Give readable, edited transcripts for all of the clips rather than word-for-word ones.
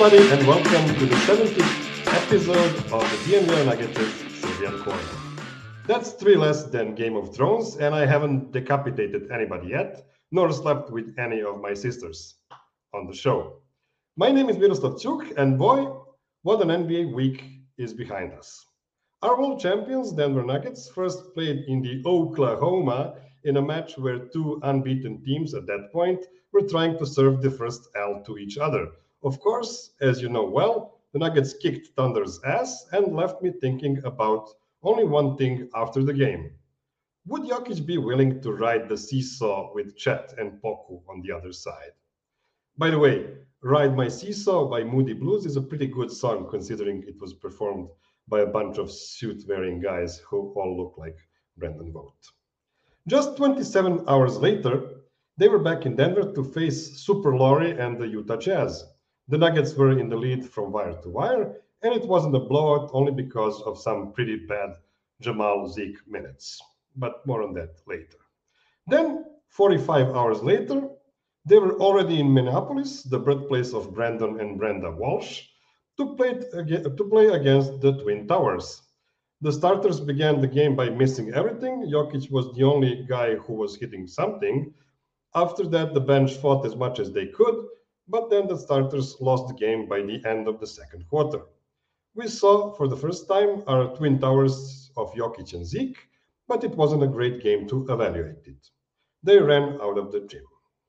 everybody, and welcome to the 70th episode of the DNVR Nuggets Serbian Corner. That's three less than Game of Thrones, and I haven't decapitated anybody yet, nor slept with any of my sisters on the show. My name is Miroslav Chuk, and boy, what an NBA week is behind us. Our world champions, Denver Nuggets, first played in the Oklahoma in a match where two unbeaten teams at that point were trying to serve the first L to each other. Of course, as you know well, the Nuggets kicked Thunder's ass and left me thinking about only one thing after the game. Would Jokic be willing to ride the seesaw with Chet and Poku on the other side? By the way, Ride My Seesaw by Moody Blues is a pretty good song considering it was performed by a bunch of suit-wearing guys who all look like Brendan Vogt. Just 27 hours later, they were back in Denver to face Super Laurie and the Utah Jazz. The Nuggets were in the lead from wire to wire, and it wasn't a blowout only because of some pretty bad Jamal Zeke minutes. But more on that later. Then, 45 hours later, they were already in Minneapolis, the birthplace of Brandon and Brenda Walsh, to play against the Twin Towers. The starters began the game by missing everything. Jokic was the only guy who was hitting something. After that, the bench fought as much as they could, but then the starters lost the game by the end of the second quarter. We saw for the first time our Twin Towers of Jokic and Zeke, but it wasn't a great game to evaluate it. They ran out of the gym.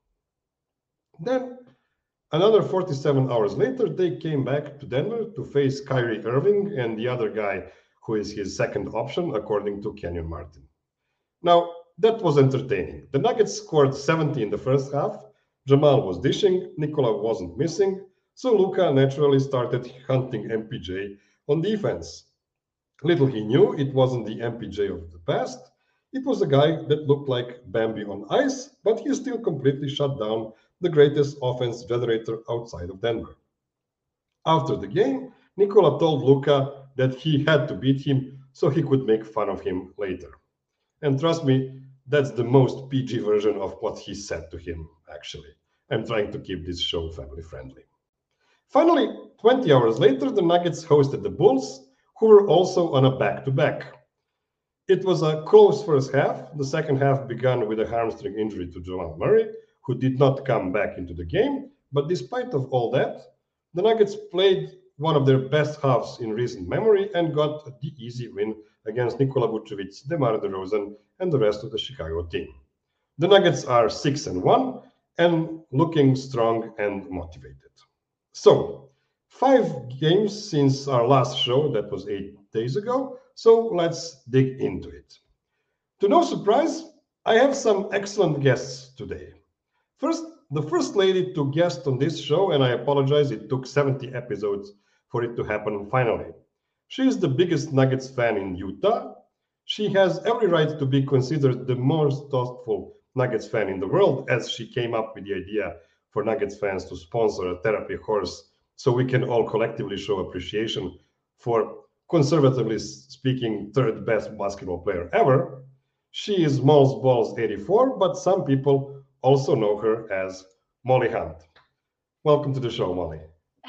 Then, another 47 hours later, they came back to Denver to face Kyrie Irving and the other guy who is his second option, according to Kenyon Martin. Now, that was entertaining. The Nuggets scored 70 in the first half. Jamal was dishing, Nikola wasn't missing, so Luka naturally started hunting MPJ on defense. Little he knew it wasn't the MPJ of the past. It was a guy that looked like Bambi on ice, but he still completely shut down the greatest offense generator outside of Denver. After the game, Nikola told Luka that he had to beat him so he could make fun of him later. And trust me, that's the most PG version of what he said to him, actually. I'm trying to keep this show family friendly. Finally, 20 hours later, the Nuggets hosted the Bulls, who were also on a back to back. It was a close first half. The second half began with a hamstring injury to Jamal Murray, who did not come back into the game. But despite of all that, the Nuggets played one of their best halves in recent memory and got the easy win against Nikola Vucevic, DeMar DeRozan, and the rest of the Chicago team. The Nuggets are 6-1 and looking strong and motivated. So, 5 games since our last show, that was 8 days ago. So let's dig into it. To no surprise, I have some excellent guests today. First, the first lady to guest on this show, and I apologize, it took 70 episodes for it to happen finally. She is the biggest Nuggets fan in Utah. She has every right to be considered the most thoughtful Nuggets fan in the world, as she came up with the idea for Nuggets fans to sponsor a therapy horse so we can all collectively show appreciation for, conservatively speaking, third best basketball player ever. She is Moles Balls 84, but some people also know her as Molly Hunt. Welcome to the show, Molly.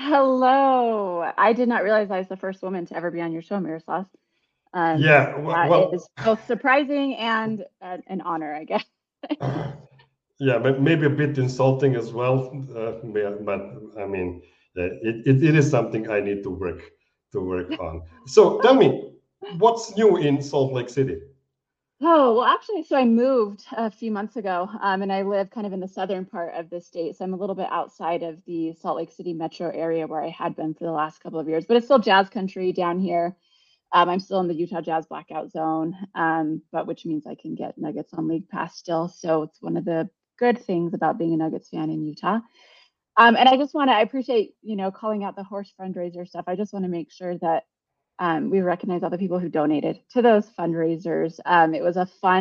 Hello. I did not realize I was the first woman to ever be on your show, Miroslav. Yeah, That is both surprising and an honor, I guess. Yeah, but maybe a bit insulting as well. But I mean, it is something I need to work on. So tell me, what's new in Salt Lake City? Oh, well, actually, so I moved a few months ago, and I live kind of in the southern part of the state. So I'm a little bit outside of the Salt Lake City metro area where I had been for the last couple of years, but it's still jazz country down here. I'm still in the Utah Jazz blackout zone, but which means I can get Nuggets on League Pass still. So it's one of the good things about being a Nuggets fan in Utah. And I appreciate, calling out the horse fundraiser stuff. I just want to make sure that we recognize all the people who donated to those fundraisers. It was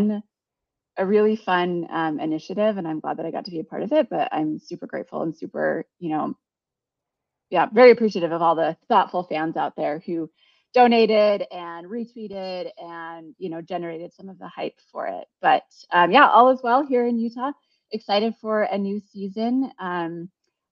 a really fun initiative, and I'm glad that I got to be a part of it. But I'm super grateful and super, very appreciative of all the thoughtful fans out there who donated and retweeted and, generated some of the hype for it. But all is well here in Utah. Excited for a new season.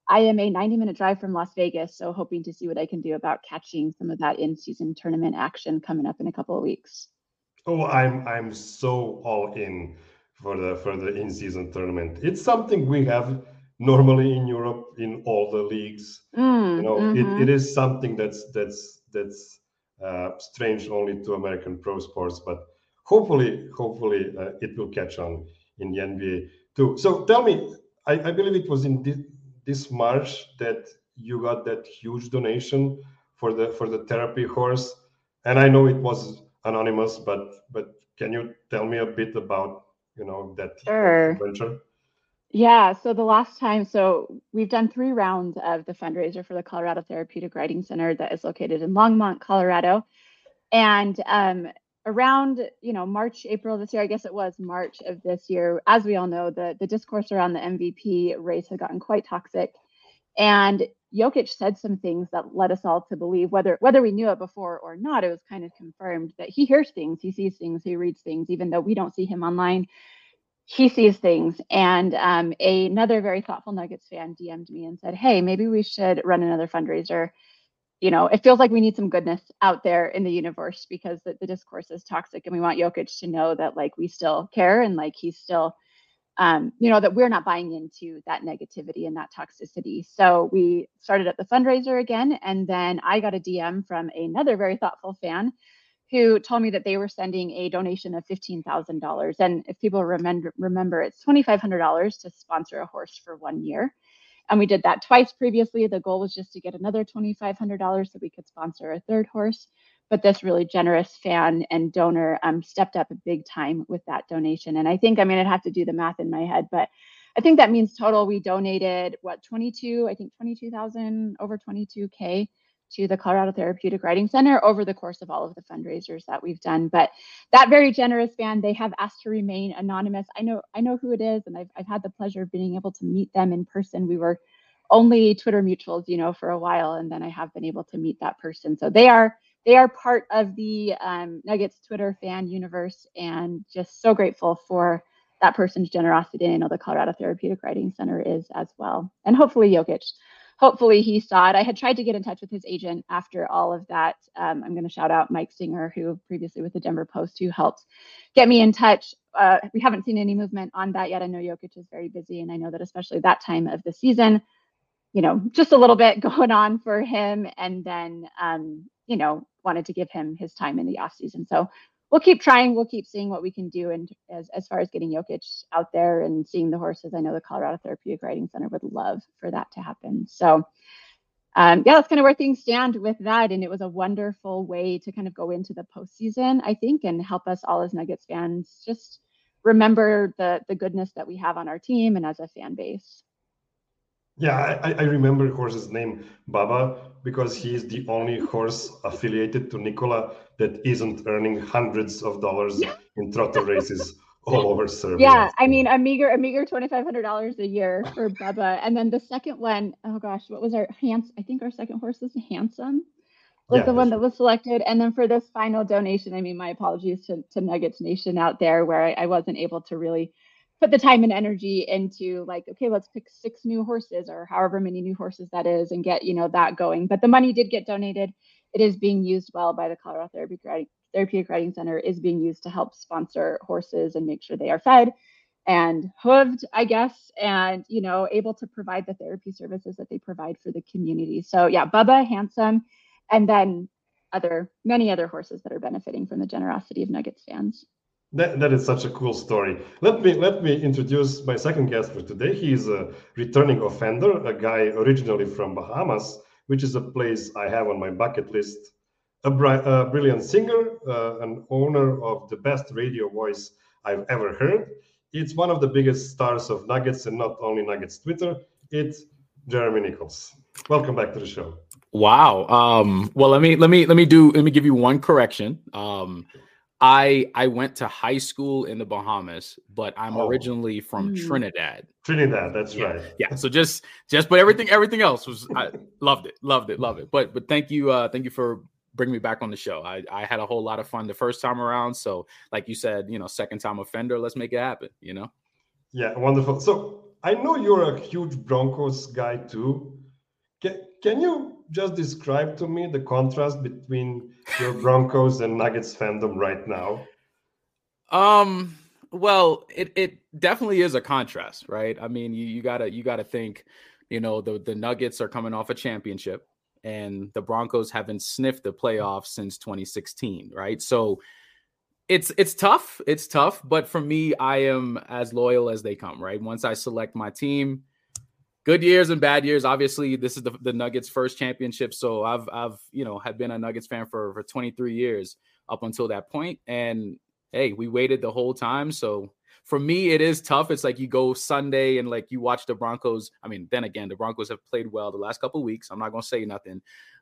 I am a 90-minute drive from Las Vegas, so hoping to see what I can do about catching some of that in-season tournament action coming up in a couple of weeks. Oh, I'm so all in for the in-season tournament. It's something we have normally in Europe in all the leagues. It is something that's strange only to American pro sports, but hopefully it will catch on in the NBA too. So tell me, I believe it was in this March that you got that huge donation for the therapy horse, and I know it was anonymous, but can you tell me a bit about that Sure. adventure? Yeah, so the last time, so we've done 3 rounds of the fundraiser for the Colorado Therapeutic Riding Center that is located in Longmont, Colorado. And around, March, April this year, I guess it was March of this year, as we all know, the discourse around the MVP race had gotten quite toxic. And Jokic said some things that led us all to believe, whether we knew it before or not, it was kind of confirmed that he hears things, he sees things, he reads things, even though we don't see him online. He sees things. And another very thoughtful Nuggets fan DM'd me and said, hey, maybe we should run another fundraiser. It feels like we need some goodness out there in the universe because the discourse is toxic, and we want Jokic to know that like we still care and like he's still that we're not buying into that negativity and that toxicity. So we started up the fundraiser again. And then I got a DM from another very thoughtful fan who told me that they were sending a donation of $15,000. And if people remember, it's $2,500 to sponsor a horse for 1 year. And we did that twice previously. The goal was just to get another $2,500 so we could sponsor a third horse. But this really generous fan and donor stepped up a big time with that donation. And I think, I'd have to do the math in my head, but I think that means total we donated, 22,000, over 22K to the Colorado Therapeutic Riding Center over the course of all of the fundraisers that we've done. But that very generous fan, they have asked to remain anonymous. I know who it is, and I've had the pleasure of being able to meet them in person. We were only Twitter mutuals, for a while, and then I have been able to meet that person. So they are part of the Nuggets Twitter fan universe, and just so grateful for that person's generosity. And I know the Colorado Therapeutic Riding Center is as well. And hopefully Jokic, hopefully he saw it. I had tried to get in touch with his agent after all of that. I'm going to shout out Mike Singer, who previously with the Denver Post, who helped get me in touch. We haven't seen any movement on that yet. I know Jokic is very busy, and I know that especially that time of the season, just a little bit going on for him, and then, wanted to give him his time in the off season. So we'll keep trying. We'll keep seeing what we can do. And as far as getting Jokic out there and seeing the horses, I know the Colorado Therapeutic Riding Center would love for that to happen. So that's kind of where things stand with that. And it was a wonderful way to kind of go into the postseason, I think, and help us all as Nuggets fans just remember the goodness that we have on our team and as a fan base. Yeah, I remember the horse's name, Baba, because he is the only horse affiliated to Nikola that isn't earning hundreds of dollars in trotter races all over Serbia. Yeah, a meager $2,500 a year for Bubba. And then the second one, oh gosh, what was I think our second horse was Handsome, was the one that was selected. And then for this final donation, my apologies to Nuggets Nation out there, where I wasn't able to really put the time and energy into like, okay, let's pick 6 new horses or however many new horses that is and get, that going. But the money did get donated. It is being used well by the Colorado Therapeutic Riding Center, is being used to help sponsor horses and make sure they are fed and hooved, I guess, and, able to provide the therapy services that they provide for the community. So yeah, Bubba, Handsome, and then many other horses that are benefiting from the generosity of Nuggets fans. That is such a cool story. Let me introduce my second guest for today. He is a returning offender, a guy originally from Bahamas, which is a place I have on my bucket list. A brilliant singer, an owner of the best radio voice I've ever heard. It's one of the biggest stars of Nuggets, and not only Nuggets Twitter. It's Jeremy Nichols. Welcome back to the show. Wow. Well, let me give you one correction. I went to high school in the Bahamas, but I'm originally from Trinidad. Trinidad, that's right. Yeah. So just but everything else was, I loved it. But thank you for bringing me back on the show. I had a whole lot of fun the first time around. So like you said, second time offender, let's make it happen. Yeah, wonderful. So I know you're a huge Broncos guy too. Can you just describe to me the contrast between your Broncos and Nuggets fandom right now? Well, it definitely is a contrast, right? I mean, you gotta think, the Nuggets are coming off a championship and the Broncos haven't sniffed the playoffs since 2016, right? So it's tough. It's tough, but for me, I am as loyal as they come, right? Once I select my team, good years and bad years. Obviously, this is the Nuggets' first championship, so I've had been a Nuggets fan for 23 years up until that point, and hey, we waited the whole time. So for me, it is tough. It's like you go Sunday and like you watch the Broncos. I mean, then again, the Broncos have played well the last couple of weeks. I'm not gonna say nothing,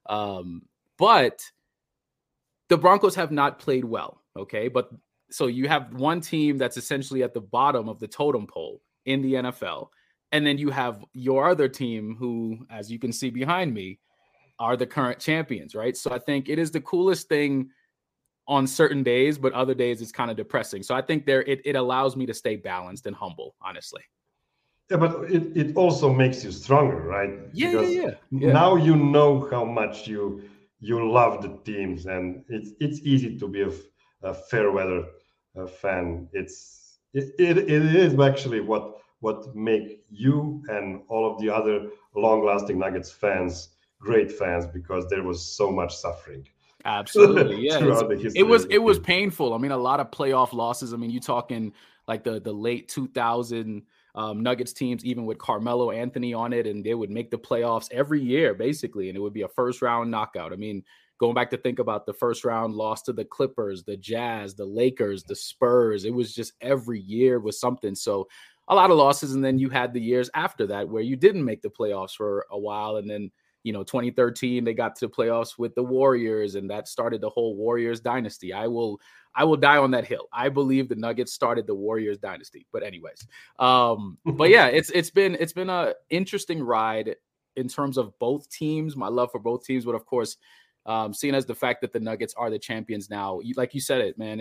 but the Broncos have not played well. Okay, but so you have one team that's essentially at the bottom of the totem pole in the NFL. And then you have your other team who, as you can see behind me, are the current champions, right? So I think it is the coolest thing on certain days, but other days it's kind of depressing. So I think it allows me to stay balanced and humble, honestly. Yeah, but it also makes you stronger, right? Yeah. Now you know how much you love the teams, and it's easy to be a fair weather fan. It is actually what make you and all of the other long-lasting Nuggets fans great fans, because there was so much suffering. Absolutely, yeah. Throughout the history it was painful. I mean, a lot of playoff losses. I mean, you talking like the late 2000 Nuggets teams, even with Carmelo Anthony on it, and they would make the playoffs every year, basically, and it would be a first round knockout. I mean, going back to think about the first round loss to the Clippers, the Jazz, the Lakers, the Spurs, it was just every year was something. So a lot of losses. And then you had the years after that where you didn't make the playoffs for a while. And then, 2013, they got to the playoffs with the Warriors, and that started the whole Warriors dynasty. I will die on that hill. I believe the Nuggets started the Warriors dynasty. But anyways, but yeah, it's been a interesting ride in terms of both teams, my love for both teams. But of course, seeing as the fact that the Nuggets are the champions now, like you said it, man,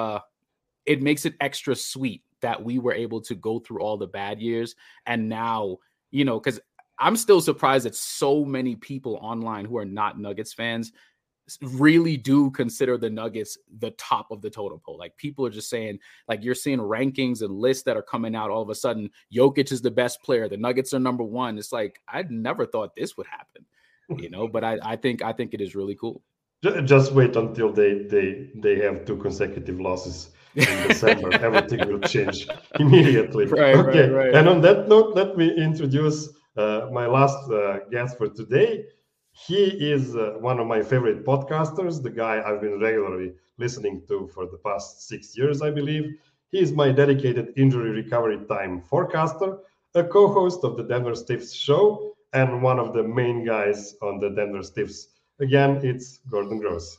it makes it extra sweet that we were able to go through all the bad years. And now, because I'm still surprised that so many people online who are not Nuggets fans really do consider the Nuggets the top of the totem pole. Like, people are just saying, like, you're seeing rankings and lists that are coming out all of a sudden. Jokic is the best player. The Nuggets are number one. It's like, I never thought this would happen, but I think it is really cool. Just wait until they have 2 consecutive losses in December. Everything will change immediately. Right. And on that note, let me introduce my last guest for today. He is one of my favorite podcasters, the guy I've been regularly listening to for the past 6 years, I believe. He is my dedicated injury recovery time forecaster, a co-host of the Denver Stiffs show, and one of the main guys on the Denver Stiffs. Again, it's Gordon Gross.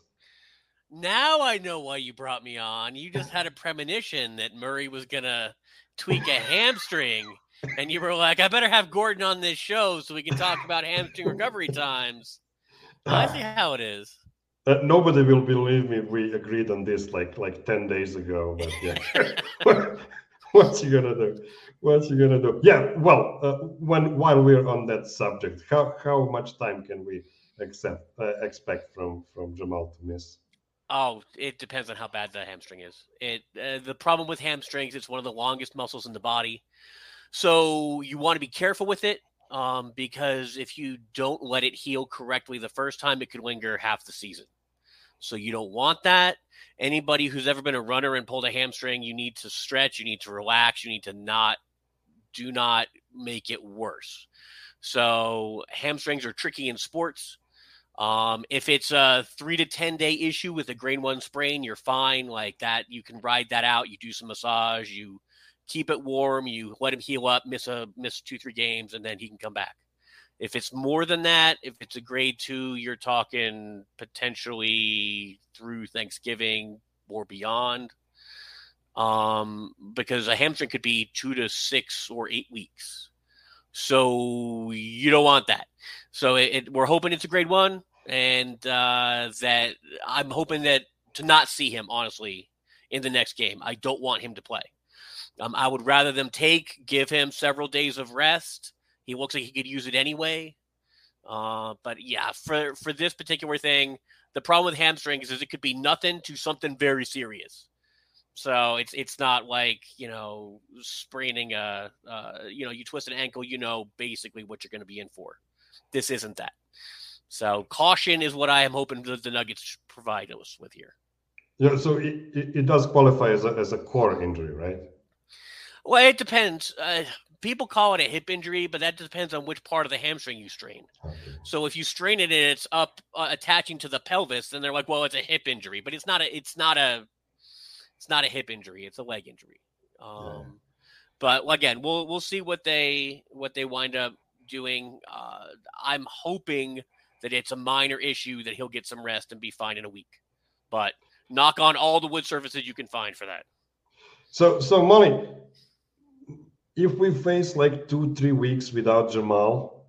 Now I know why you brought me on. You just had a premonition that Murray was going to tweak a hamstring. And you were like, I better have Gordon on this show so we can talk about hamstring recovery times. I see how it is. Nobody will believe me. We agreed on this like 10 days ago. But yeah, what's you gonna do? Yeah. Well, while we're on that subject, how much time can we expect from Jamal to miss? Oh, it depends on how bad the hamstring is. The problem with hamstrings, it's one of the longest muscles in the body. So you want to be careful with it, because if you don't let it heal correctly the first time, it could linger half the season. So you don't want that. Anybody who's ever been a runner and pulled a hamstring, you need to stretch, you need to relax, you need to do not make it worse. So hamstrings are tricky in sports. If it's a 3 to 10 day issue with a grade 1 sprain, you're fine. Like that, you can ride that out. You do some massage, you keep it warm, you let him heal up, miss 2-3 games, and then he can come back. If it's more than that, if it's a grade 2, you're talking potentially through Thanksgiving or beyond. Because a hamstring could be 2 to 6 or 8 weeks. So you don't want that. So we're hoping it's a grade 1, and that I'm hoping that to not see him, honestly, in the next game. I don't want him to play. I would rather them give him several days of rest. He looks like he could use it anyway. But yeah, for this particular thing, the problem with hamstrings is it could be nothing to something very serious. So it's not like, spraining you twist an ankle, basically what you're going to be in for. This isn't that. So caution is what I am hoping the Nuggets provide us with here. Yeah, so it does qualify as a core injury, right? Well, it depends. People call it a hip injury, but that depends on which part of the hamstring you strain. Okay. So if you strain it and it's up attaching to the pelvis, then they're like, well, it's a hip injury, but it's not a hip injury. It's a leg injury. But again, we'll see what they wind up doing. I'm hoping that it's a minor issue, that he'll get some rest and be fine in a week. But knock on all the wood surfaces you can find for that. So Molly, if we face like 2-3 weeks without Jamal,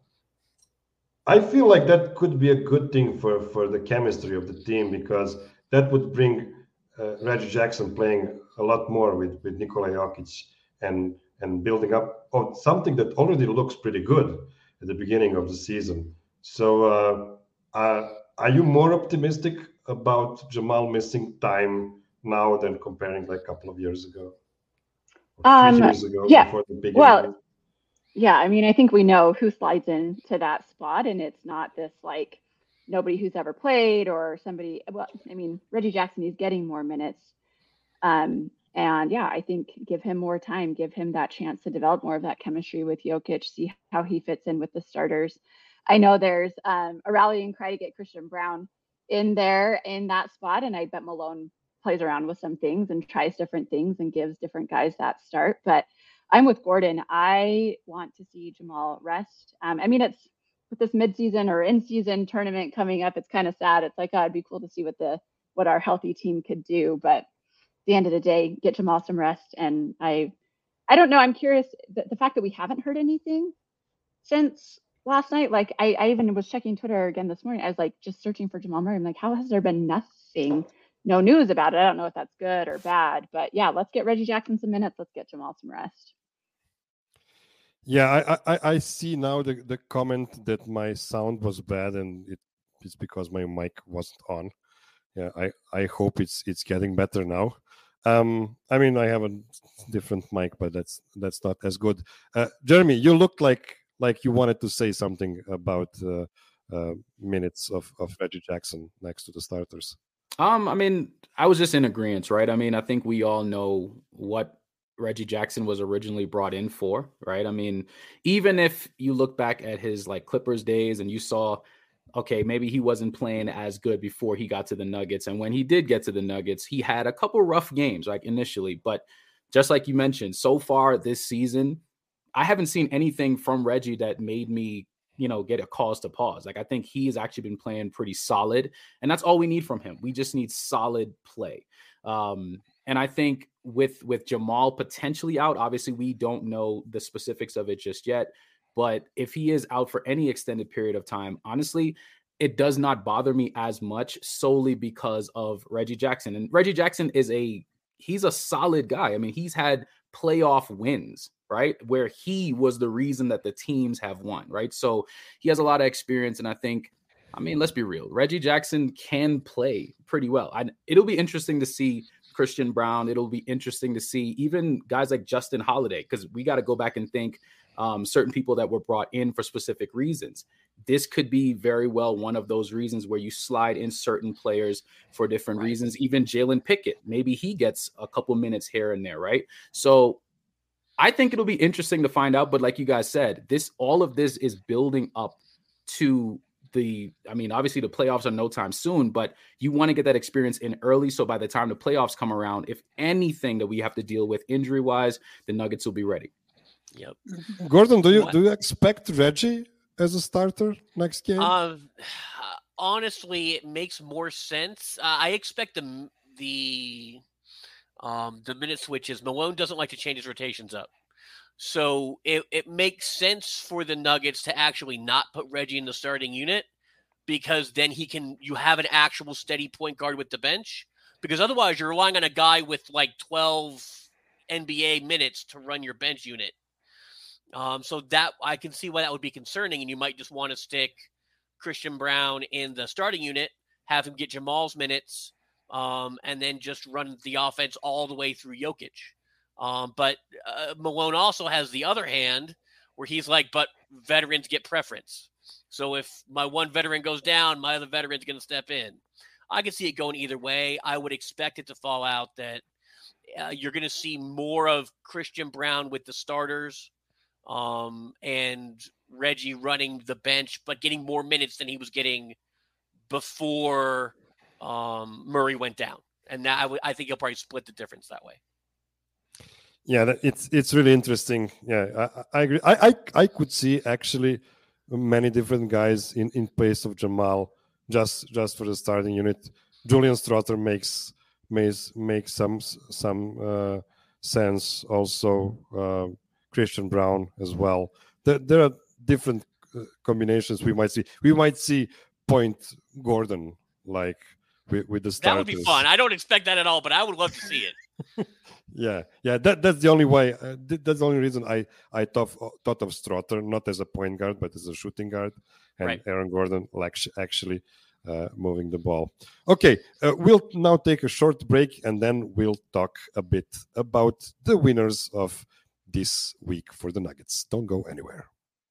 I feel like that could be a good thing for the chemistry of the team, because that would bring Reggie Jackson playing a lot more with Nikola Jokic and building up on something that already looks pretty good at the beginning of the season. So are you more optimistic about Jamal missing time now than comparing like a couple of years ago? 3 years ago, yeah. Before the big injury? Yeah, I mean, I think we know who slides into that spot, and it's not this like nobody who's ever played or somebody. Well, I mean, Reggie Jackson is getting more minutes. And yeah, I think give him more time, give him that chance to develop more of that chemistry with Jokic, see how he fits in with the starters. I know there's a rallying cry to get Christian Braun in there in that spot, and I bet Malone plays around with some things and tries different things and gives different guys that start. But I'm with Gordon. I want to see Jamal rest. I mean, it's with this midseason or in-season tournament coming up, it's kind of sad. It's like, it'd be cool to see what our healthy team could do. But at the end of the day, get Jamal some rest. And I don't know. I'm curious, the fact that we haven't heard anything since last night. Like I even was checking Twitter again this morning. I was like just searching for Jamal Murray. I'm like, how has there been nothing? No news about it. I don't know if that's good or bad, but yeah, let's get Reggie Jackson some minutes. Let's get Jamal some rest. Yeah, I see now the comment that my sound was bad, and it's because my mic wasn't on. Yeah, I hope it's getting better now. I mean, I have a different mic, but that's not as good. Jeremy, you looked like you wanted to say something about minutes of Reggie Jackson next to the starters. I mean, I was just in agreement, right? I mean, I think we all know what Reggie Jackson was originally brought in for, right? I mean, even if you look back at his like Clippers days and you saw, okay, maybe he wasn't playing as good before he got to the Nuggets. And when he did get to the Nuggets, he had a couple rough games, like initially. But just like you mentioned, so far this season, I haven't seen anything from Reggie that made me, get a cause to pause. Like, I think he's actually been playing pretty solid, and that's all we need from him. We just need solid play. And I think with Jamal potentially out, obviously we don't know the specifics of it just yet, but if he is out for any extended period of time, honestly, it does not bother me as much solely because of Reggie Jackson. And Reggie Jackson he's a solid guy. I mean, he's had playoff wins, right? Where he was the reason that the teams have won, right? So he has a lot of experience. And I think, I mean, let's be real. Reggie Jackson can play pretty well. It'll be interesting to see Christian Braun. It'll be interesting to see even guys like Justin Holiday, because we got to go back and think certain people that were brought in for specific reasons. This could be very well one of those reasons where you slide in certain players for different reasons. Even Jalen Pickett, maybe he gets a couple minutes here and there, right? So I think it'll be interesting to find out. But like you guys said, all of this is building up to obviously the playoffs are no time soon, but you want to get that experience in early. So by the time the playoffs come around, if anything that we have to deal with injury wise, the Nuggets will be ready. Yep. Gordon, do you expect Reggie as a starter next game? Honestly, it makes more sense. I expect the minute switches. Malone doesn't like to change his rotations up. So it makes sense for the Nuggets to actually not put Reggie in the starting unit, because then you have an actual steady point guard with the bench, because otherwise you're relying on a guy with like 12 NBA minutes to run your bench unit. So that I can see why that would be concerning, and you might just want to stick Christian Braun in the starting unit, have him get Jamal's minutes, and then just run the offense all the way through Jokic. But Malone also has the other hand where he's like, but veterans get preference. So if my one veteran goes down, my other veteran's going to step in. I can see it going either way. I would expect it to fall out that you're going to see more of Christian Braun with the starters and Reggie running the bench, but getting more minutes than he was getting before Murray went down. And now I think he'll probably split the difference that way. Yeah, it's really interesting. Yeah, I agree. I could see actually many different guys in place of Jamal just for the starting unit. Julian Strawther makes some sense. Also, Christian Braun as well. There are different combinations we might see. We might see Point Gordon like with the starters. That would be fun. I don't expect that at all, but I would love to see it. Yeah. That's the only way. That's the only reason I thought of Strawther not as a point guard but as a shooting guard, and right. Aaron Gordon actually moving the ball. Okay, we'll now take a short break and then we'll talk a bit about the winners of this week for the Nuggets. Don't go anywhere.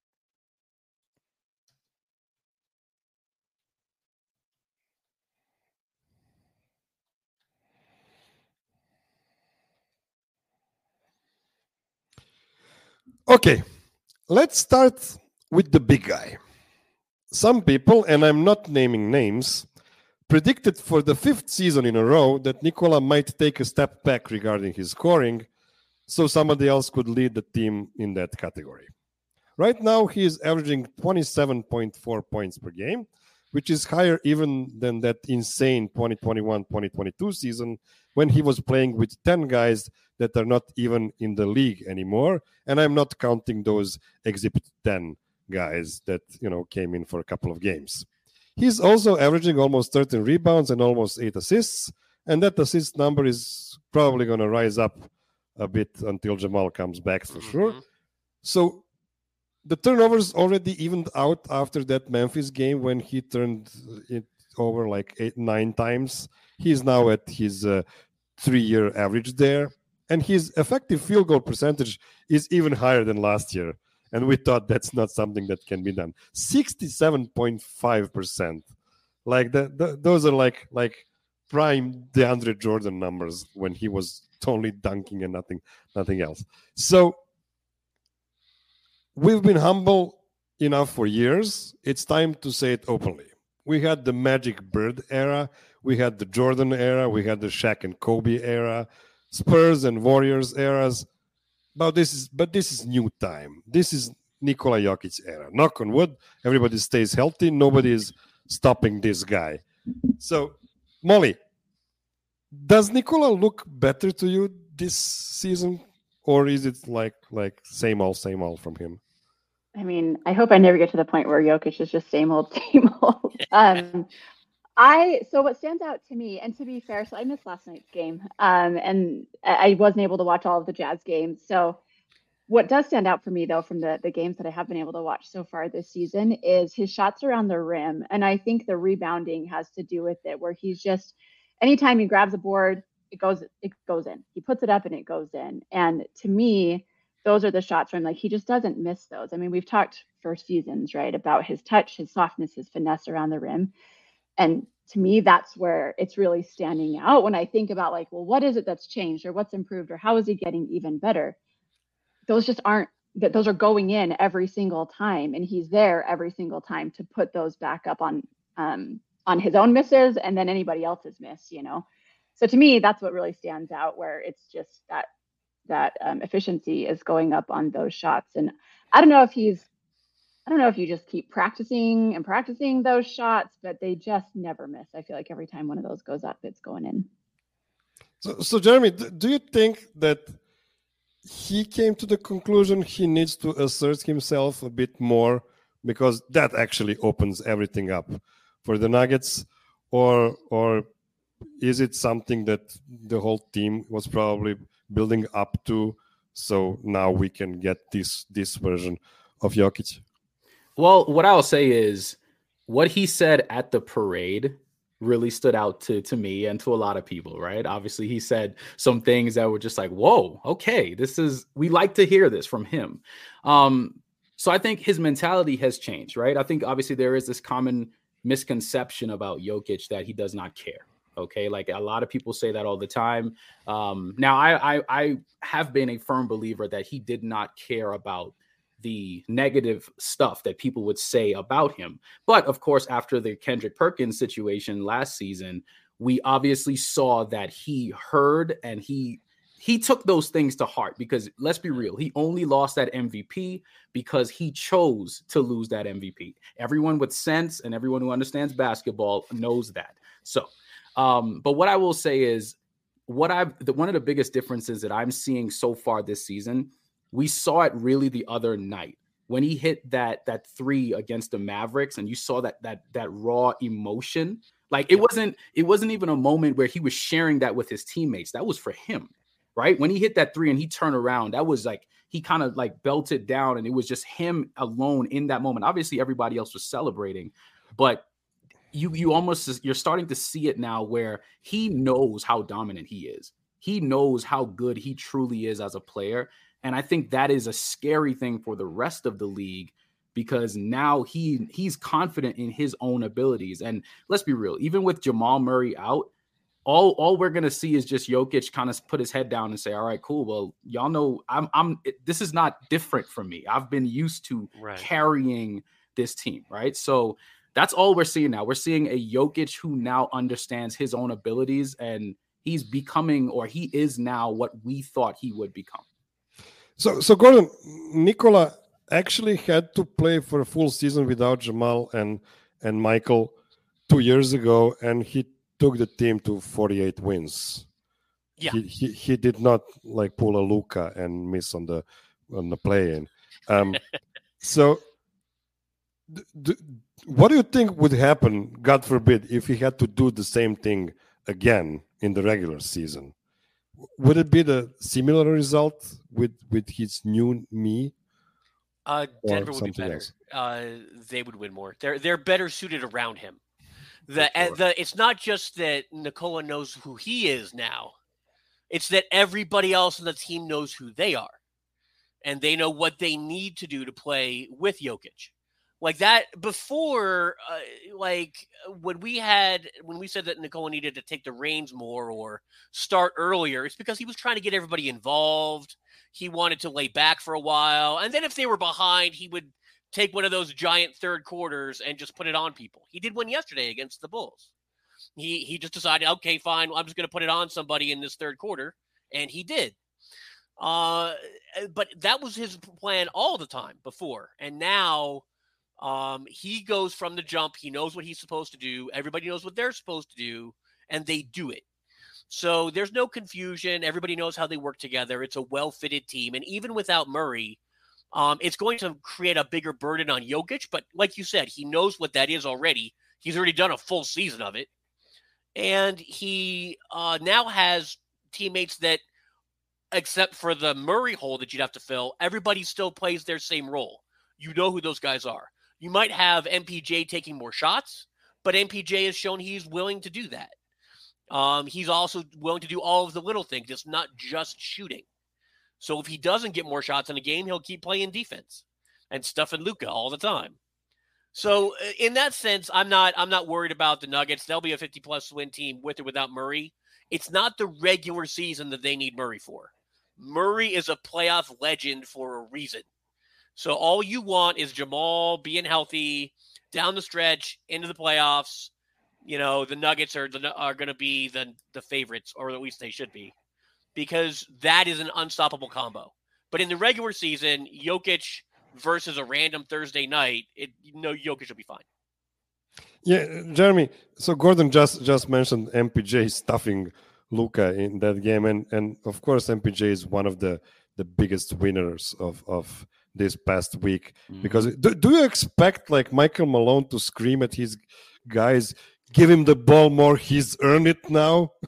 Okay, let's start with the big guy. Some people, and I'm not naming names, predicted for the 5th season in a row that Nikola might take a step back regarding his scoring, so somebody else could lead the team in that category. Right now, he is averaging 27.4 points per game, which is higher even than that insane 2021-2022 season when he was playing with 10 guys that are not even in the league anymore. And I'm not counting those Exhibit 10 guys that, came in for a couple of games. He's also averaging almost 13 rebounds and almost 8 assists. And that assist number is probably going to rise up a bit until Jamal comes back for sure. So the turnovers already evened out after that Memphis game when he turned it over like 8-9 times. He's now at his 3-year average there. And his effective field goal percentage is even higher than last year. And we thought that's not something that can be done. 67.5%. Like those are like prime DeAndre Jordan numbers when he was only dunking and nothing else. So we've been humble enough for years. It's time to say it openly. We had the Magic Bird era. We had the Jordan era. We had the Shaq and Kobe era. Spurs and Warriors eras. But this is new time. This is Nikola Jokic era. Knock on wood, everybody stays healthy. Nobody is stopping this guy. So, Molly, does Nikola look better to you this season? Or is it like same old from him? I mean, I hope I never get to the point where Jokic is just same old. So what stands out to me, and to be fair, so I missed last night's game, and I wasn't able to watch all of the Jazz games. So what does stand out for me, though, from the games that I have been able to watch so far this season is his shots around the rim. And I think the rebounding has to do with it, where he's just, anytime he grabs a board, it goes in. He puts it up and it goes in. And to me, those are the shots where I'm like, he just doesn't miss those. I mean, we've talked for seasons, right, about his touch, his softness, his finesse around the rim. And to me, that's where it's really standing out when I think about like, well, what is it that's changed or what's improved or how is he getting even better? Those just aren't, those are going in every single time. And he's there every single time to put those back up on his own misses and then anybody else's miss, So to me, that's what really stands out, where it's just that efficiency is going up on those shots. And I don't know if you just keep practicing those shots, but they just never miss. I feel like every time one of those goes up, it's going in. So Jeremy, do you think that he came to the conclusion he needs to assert himself a bit more because that actually opens everything up for the Nuggets? Or is it something that the whole team was probably building up to, so now we can get this version of Jokic? Well, what I'll say is what he said at the parade really stood out to me and to a lot of people, right? Obviously, he said some things that were just like, whoa, okay, we like to hear this from him. So I think his mentality has changed, right? I think obviously there is this common misconception about Jokic that he does not care. Okay, like a lot of people say that all the time. Now, I have been a firm believer that he did not care about the negative stuff that people would say about him. But of course, after the Kendrick Perkins situation last season, we obviously saw that he heard and he took those things to heart, because let's be real, he only lost that MVP because he chose to lose that MVP. Everyone with sense and everyone who understands basketball knows that. So, but what I will say is one of the biggest differences that I'm seeing so far this season, we saw it really the other night when he hit that three against the Mavericks, and you saw that raw emotion. Like it wasn't even a moment where he was sharing that with his teammates. That was for him, right? When he hit that three and he turned around, that was like he kind of like belted down, and it was just him alone in that moment. Obviously, everybody else was celebrating, but you're starting to see it now where he knows how dominant he is. He knows how good he truly is as a player. And I think that is a scary thing for the rest of the league, because now he's confident in his own abilities. And let's be real, even with Jamal Murray out, all we're gonna see is just Jokic kind of put his head down and say, "All right, cool. Well, y'all know this is not different from me. I've been used to carrying this team, right?" So that's all we're seeing now. We're seeing a Jokic who now understands his own abilities, and he's becoming, or he is now, what we thought he would become. So Gordon, Nikola actually had to play for a full season without Jamal and Michael 2 years ago, and he took the team to 48 wins. Yeah, he did not like pull a Luka and miss on the play-in. So, what do you think would happen, God forbid, if he had to do the same thing again in the regular season? Would it be the similar result with his new me? Denver would be better. They would win more. They're better suited around him. It's not just that Nikola knows who he is now. It's that everybody else on the team knows who they are, and they know what they need to do to play with Jokic. Like that before, when we said that Nikola needed to take the reins more or start earlier, it's because he was trying to get everybody involved. He wanted to lay back for a while. And then if they were behind, he would take one of those giant third quarters and just put it on people. He did one yesterday against the Bulls. He just decided, okay, fine, I'm just going to put it on somebody in this third quarter. And he did. But that was his plan all the time before. And now he goes from the jump. He knows what he's supposed to do. Everybody knows what they're supposed to do, and they do it. So there's no confusion. Everybody knows how they work together. It's a well-fitted team. And even without Murray, it's going to create a bigger burden on Jokic. But like you said, he knows what that is already. He's already done a full season of it. And he now has teammates that, except for the Murray hole that you'd have to fill, everybody still plays their same role. You know who those guys are. You might have MPJ taking more shots, but MPJ has shown he's willing to do that. He's also willing to do all of the little things. It's not just shooting. So if he doesn't get more shots in a game, he'll keep playing defense and stuffing Luka all the time. So in that sense, I'm not worried about the Nuggets. They'll be a 50-plus win team with or without Murray. It's not the regular season that they need Murray for. Murray is a playoff legend for a reason. So all you want is Jamal being healthy down the stretch into the playoffs. You know, the Nuggets are going to be the favorites, or at least they should be, because that is an unstoppable combo. But in the regular season, Jokic versus a random Thursday night, Jokic will be fine. Yeah, Jeremy. So Gordon just mentioned MPJ stuffing Luka in that game, and of course MPJ is one of the biggest winners of this past week. Because do you expect like Michael Malone to scream at his guys, give him the ball more, he's earned it now?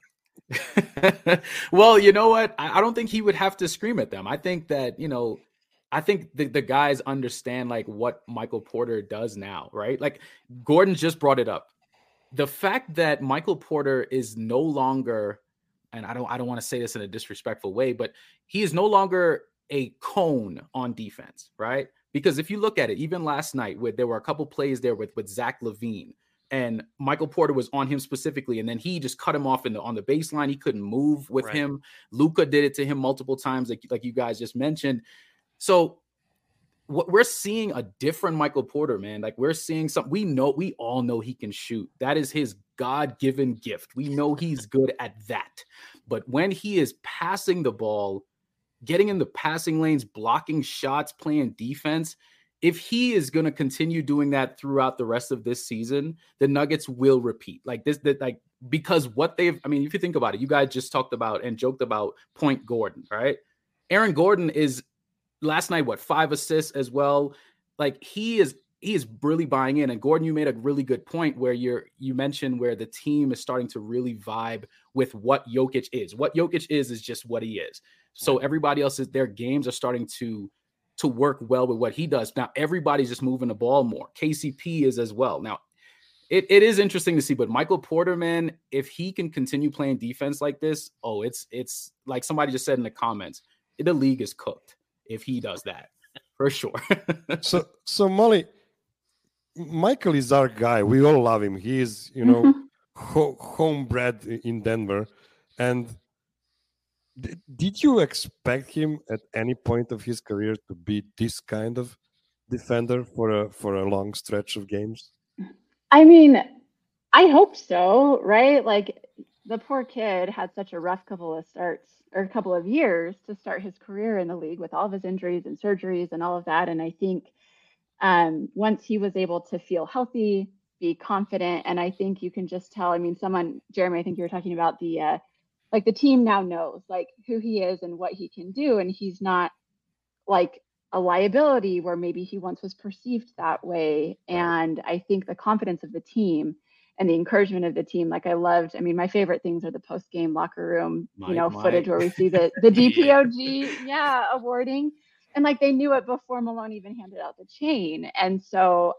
Well, you know what? I don't think he would have to scream at them. I think that, I think the guys understand like what Michael Porter does now, right? Like Gordon just brought it up. The fact that Michael Porter is no longer, and I don't want to say this in a disrespectful way, but he is no longer a cone on defense, right? Because if you look at it, even last night, where there were a couple plays there with Zach LaVine, and Michael Porter was on him specifically, and then he just cut him off on the baseline. He couldn't move with him. Luka did it to him multiple times, like you guys just mentioned. So what we're seeing a different Michael Porter, man. Like we're seeing something. We all know he can shoot. That is his God-given gift. We know he's good at that. But when he is passing the ball, getting in the passing lanes, blocking shots, playing defense, if he is going to continue doing that throughout the rest of this season, the Nuggets will repeat because what they've, I mean, if you think about it, you guys just talked about and joked about Point Gordon, right? Aaron Gordon is last night, 5 assists as well. Like he is really buying in. And Gordon, you made a really good point where you mentioned where the team is starting to really vibe with what Jokic is. What Jokic is just what he is. So everybody else their games are starting to work well with what he does. Now everybody's just moving the ball more. KCP is as well. Now it is interesting to see, but Michael Porter, man, if he can continue playing defense like this, it's like somebody just said in the comments, the league is cooked if he does that, for sure. So Molly, Michael is our guy. We all love him. He is, homebred in Denver. And did you expect him at any point of his career to be this kind of defender for a long stretch of games? I mean, I hope so, right? Like the poor kid had such a rough couple of years to start his career in the league with all of his injuries and surgeries and all of that. And I think once he was able to feel healthy, be confident, and I think you can just tell, I mean, Jeremy, I think you were talking about the team now knows like who he is and what he can do. And he's not like a liability where maybe he once was perceived that way. And I think the confidence of the team and the encouragement of the team, like my favorite things are the post-game locker room, footage where we see the DPOG, awarding. And like they knew it before Malone even handed out the chain. And so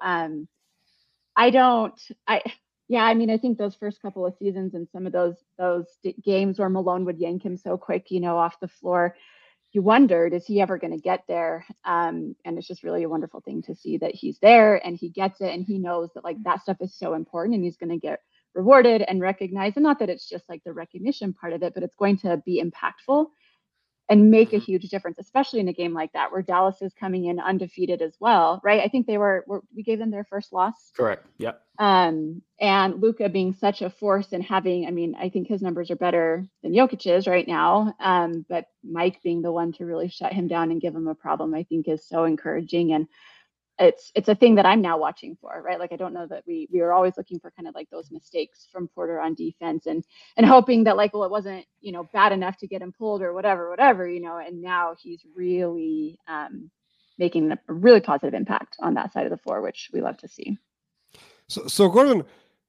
I think those first couple of seasons and some of those games where Malone would yank him so quick, off the floor, you wondered, is he ever going to get there? And it's just really a wonderful thing to see that he's there and he gets it and he knows that like that stuff is so important and he's going to get rewarded and recognized. And not that it's just like the recognition part of it, but it's going to be impactful and make a huge difference, especially in a game like that where Dallas is coming in undefeated as well, right? I think we gave them their first loss. Correct. Yep. And Luka being such a force and I think his numbers are better than Jokic's right now. But Mike being the one to really shut him down and give him a problem, I think is so encouraging. And it's a thing that I'm now watching for, right? Like, I don't know that we were always looking for kind of like those mistakes from Porter on defense and hoping that like, well, it wasn't, bad enough to get him pulled or whatever, and now he's really making a really positive impact on that side of the floor, which we love to see. So Gordon,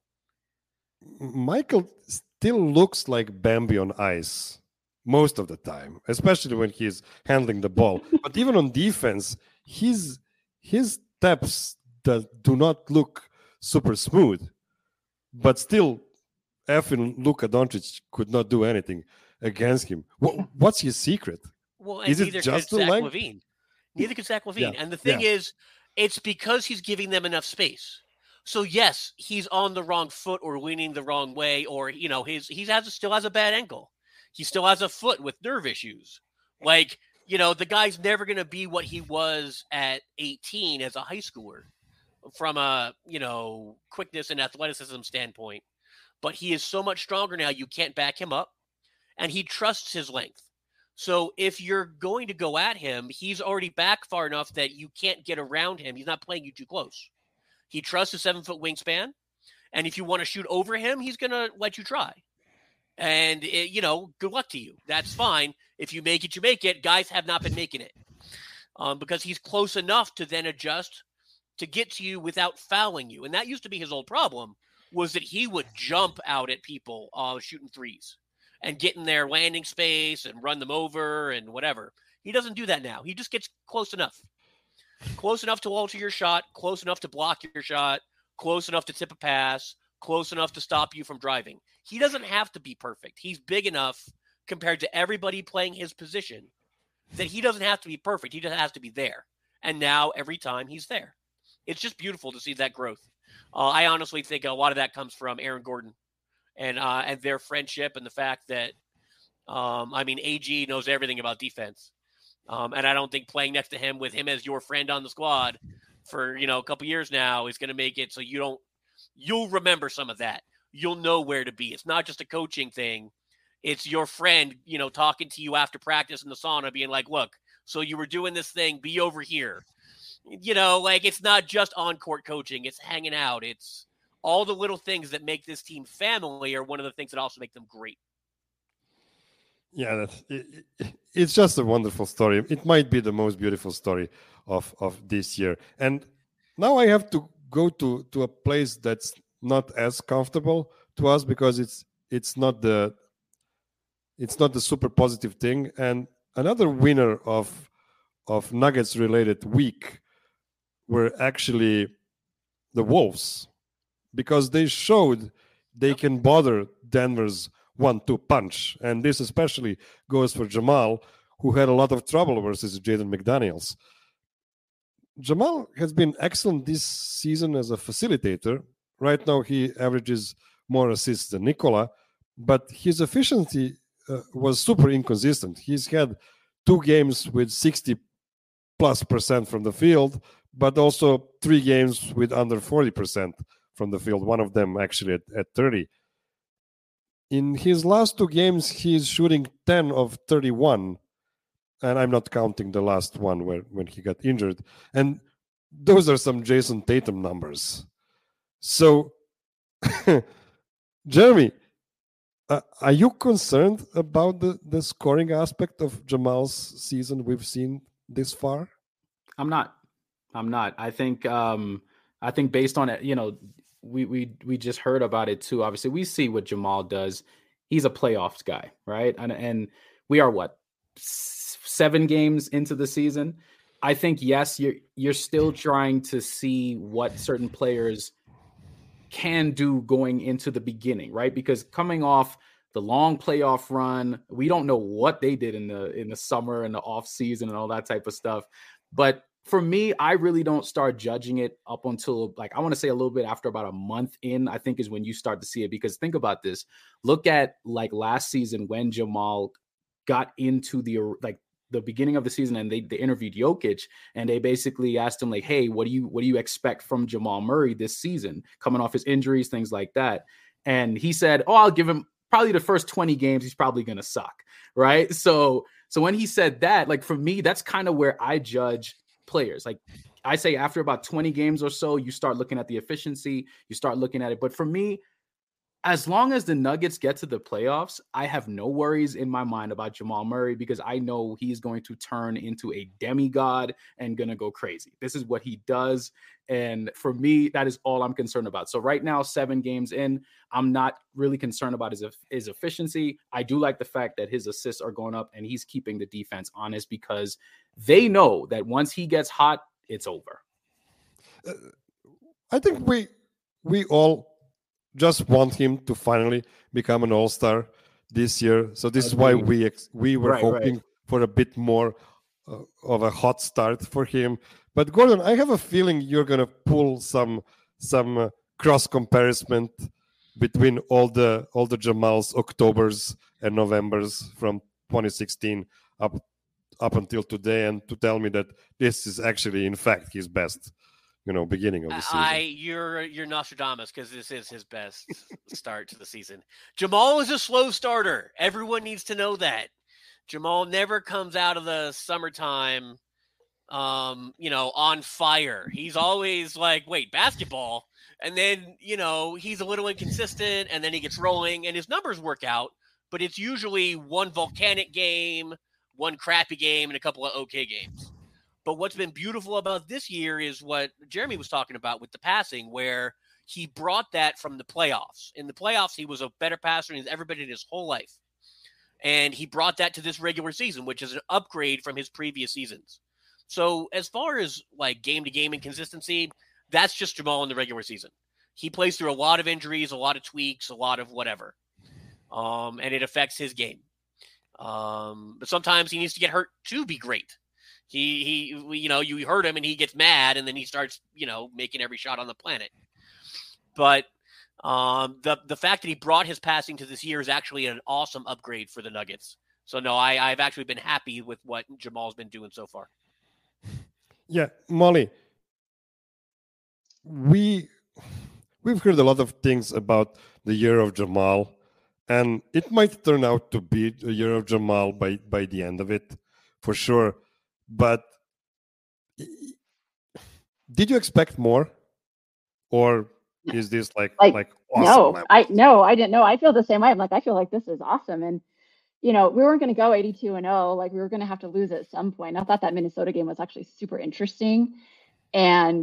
Michael still looks like Bambi on ice most of the time, especially when he's handling the ball. But even on defense, his steps that do not look super smooth, but still, effing Luka Doncic could not do anything against him. What's his secret? Well, is it just Zach LaVine? Neither could Zach LaVine. Yeah. And the thing is, it's because he's giving them enough space. So yes, he's on the wrong foot or leaning the wrong way, or still has a bad ankle. He still has a foot with nerve issues. Like, the guy's never going to be what he was at 18 as a high schooler from a, quickness and athleticism standpoint. But he is so much stronger now, you can't back him up. And he trusts his length. So if you're going to go at him, he's already back far enough that you can't get around him. He's not playing you too close. He trusts his 7-foot wingspan. And if you want to shoot over him, he's going to let you try. And, good luck to you. That's fine. If you make it, you make it. Guys have not been making it because he's close enough to then adjust to get to you without fouling you. And that used to be his old problem, was that he would jump out at people shooting threes. and get in their landing space and run them over and whatever. He doesn't do that now. He just gets close enough to alter your shot, close enough to block your shot, close enough to tip a pass, close enough to stop you from driving. He doesn't have to be perfect. He's big enough compared to everybody playing his position that he doesn't have to be perfect. He just has to be there. And now every time he's there. It's just beautiful to see that growth. I honestly think a lot of that comes from Aaron Gordon and their friendship and the fact that, AG knows everything about defense. And I don't think playing next to him with him as your friend on the squad for, a couple years now is going to make it so you'll remember some of that. You'll know where to be. It's not just a coaching thing. It's your friend, talking to you after practice in the sauna being like, look, so you were doing this thing, be over here. It's not just on-court coaching. It's hanging out. It's all the little things that make this team family are one of the things that also make them great. Yeah, it's just a wonderful story. It might be the most beautiful story of this year. And now I have to go to a place that's not as comfortable to us because it's not the super positive thing. And another winner of Nuggets related week were actually the Wolves, because they showed they can bother Denver's 1-2 punch. And this especially goes for Jamal, who had a lot of trouble versus Jaden McDaniels. Jamal has been excellent this season as a facilitator. Right now, he averages more assists than Nikola, but his efficiency was super inconsistent. He's had 2 games with 60+% from the field, but also 3 games with under 40% from the field, one of them actually at 30. In his last 2 games, he's shooting 10 of 31, and I'm not counting the last one when he got injured. And those are some Jason Tatum numbers. So, Jeremy, are you concerned about the scoring aspect of Jamal's season we've seen this far? I'm not. I think based on it, we just heard about it too. Obviously, we see what Jamal does. He's a playoffs guy, right? And we are 7 games into the season. I think yes, you're still trying to see what certain players can do going into the beginning, right? Because coming off the long playoff run, we don't know what they did in the summer and the off season and all that type of stuff. But for me, I really don't start judging it up until I want to say a little bit after about a month in, I think is when you start to see it. Because think about this. Look at last season when Jamal got into the beginning of the season and they interviewed Jokic and they basically asked him hey, what do you expect from Jamal Murray this season coming off his injuries, things like that. And he said, I'll give him probably the first 20 games. He's probably going to suck. Right. So when he said that, for me, that's kind of where I judge players. I say after about 20 games or so, you start looking at the efficiency, you start looking at it. But for me, as long as the Nuggets get to the playoffs, I have no worries in my mind about Jamal Murray because I know he's going to turn into a demigod and going to go crazy. This is what he does. And for me, that is all I'm concerned about. So right now, 7 games in, I'm not really concerned about his efficiency. I do like the fact that his assists are going up and he's keeping the defense honest because they know that once he gets hot, it's over. I think we all just want him to finally become an all-star this year. So this is why we were hoping for a bit more of a hot start for him. But Gordon, I have a feeling you're going to pull some cross comparison between all the Jamal's Octobers and Novembers from 2016 up until today, and to tell me that this is actually in fact his best beginning of the season. You're Nostradamus because this is his best start to the season. Jamal is a slow starter. Everyone needs to know that. Jamal never comes out of the summertime, on fire. He's always wait, basketball. And then, he's a little inconsistent and then he gets rolling and his numbers work out, but it's usually one volcanic game, one crappy game, and a couple of okay games. But what's been beautiful about this year is what Jeremy was talking about with the passing, where he brought that from the playoffs. In the playoffs, he was a better passer than he's ever been in his whole life. And he brought that to this regular season, which is an upgrade from his previous seasons. So as far as like game-to-game inconsistency, that's just Jamal in the regular season. He plays through a lot of injuries, a lot of tweaks, a lot of whatever. And it affects his game. But sometimes he needs to get hurt to be great. He you hurt him and he gets mad and then he starts, making every shot on the planet. But the fact that he brought his passing to this year is actually an awesome upgrade for the Nuggets. So no, I've actually been happy with what Jamal's been doing so far. Yeah, Molly, we've heard a lot of things about the year of Jamal, and it might turn out to be the year of Jamal by the end of it, for sure. But did you expect more, or is this like awesome? I didn't know. I feel the same way. I'm like, I feel like this is awesome, and we weren't going to go 82-0. Like, we were going to have to lose at some point. I thought that Minnesota game was actually super interesting. And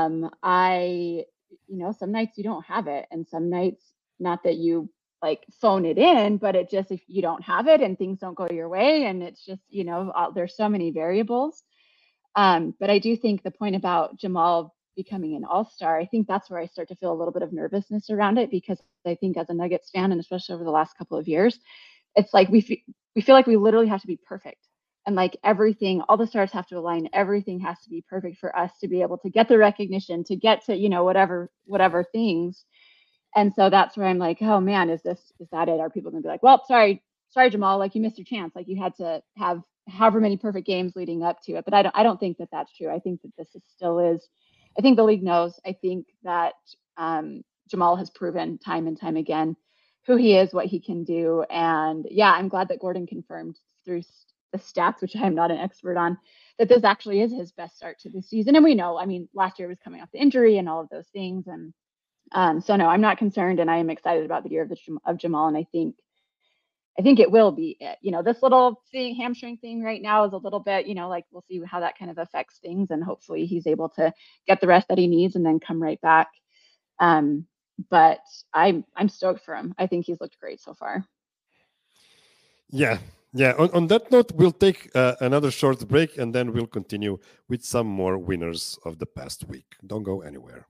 some nights you don't have it. And some nights, not that you like phone it in, but it just, if you don't have it and things don't go your way, and it's just, there's so many variables. But I do think the point about Jamal becoming an all-star, I think that's where I start to feel a little bit of nervousness around it, because I think as a Nuggets fan, and especially over the last couple of years, it's like we feel like we literally have to be perfect, and like everything, all the stars have to align. Everything has to be perfect for us to be able to get the recognition, to get to whatever things. And so that's where I'm like, oh man, is that it? Are people gonna be like, well, sorry Jamal, like you missed your chance, like you had to have however many perfect games leading up to it? But I don't think that that's true. I think that this still is. I think the league knows. I think that Jamal has proven time and time again who he is, what he can do. And yeah, I'm glad that Gordon confirmed through the stats, which I am not an expert on, that this actually is his best start to the season. And we know, last year was coming off the injury and all of those things. And so no, I'm not concerned, and I am excited about the year of Jamal. And I think it will be it. This little hamstring thing right now is a little bit, like we'll see how that kind of affects things, and hopefully he's able to get the rest that he needs and then come right back. But I'm stoked for him. I think he's looked great so far. Yeah. On that note, we'll take another short break, and then we'll continue with some more winners of the past week. Don't go anywhere.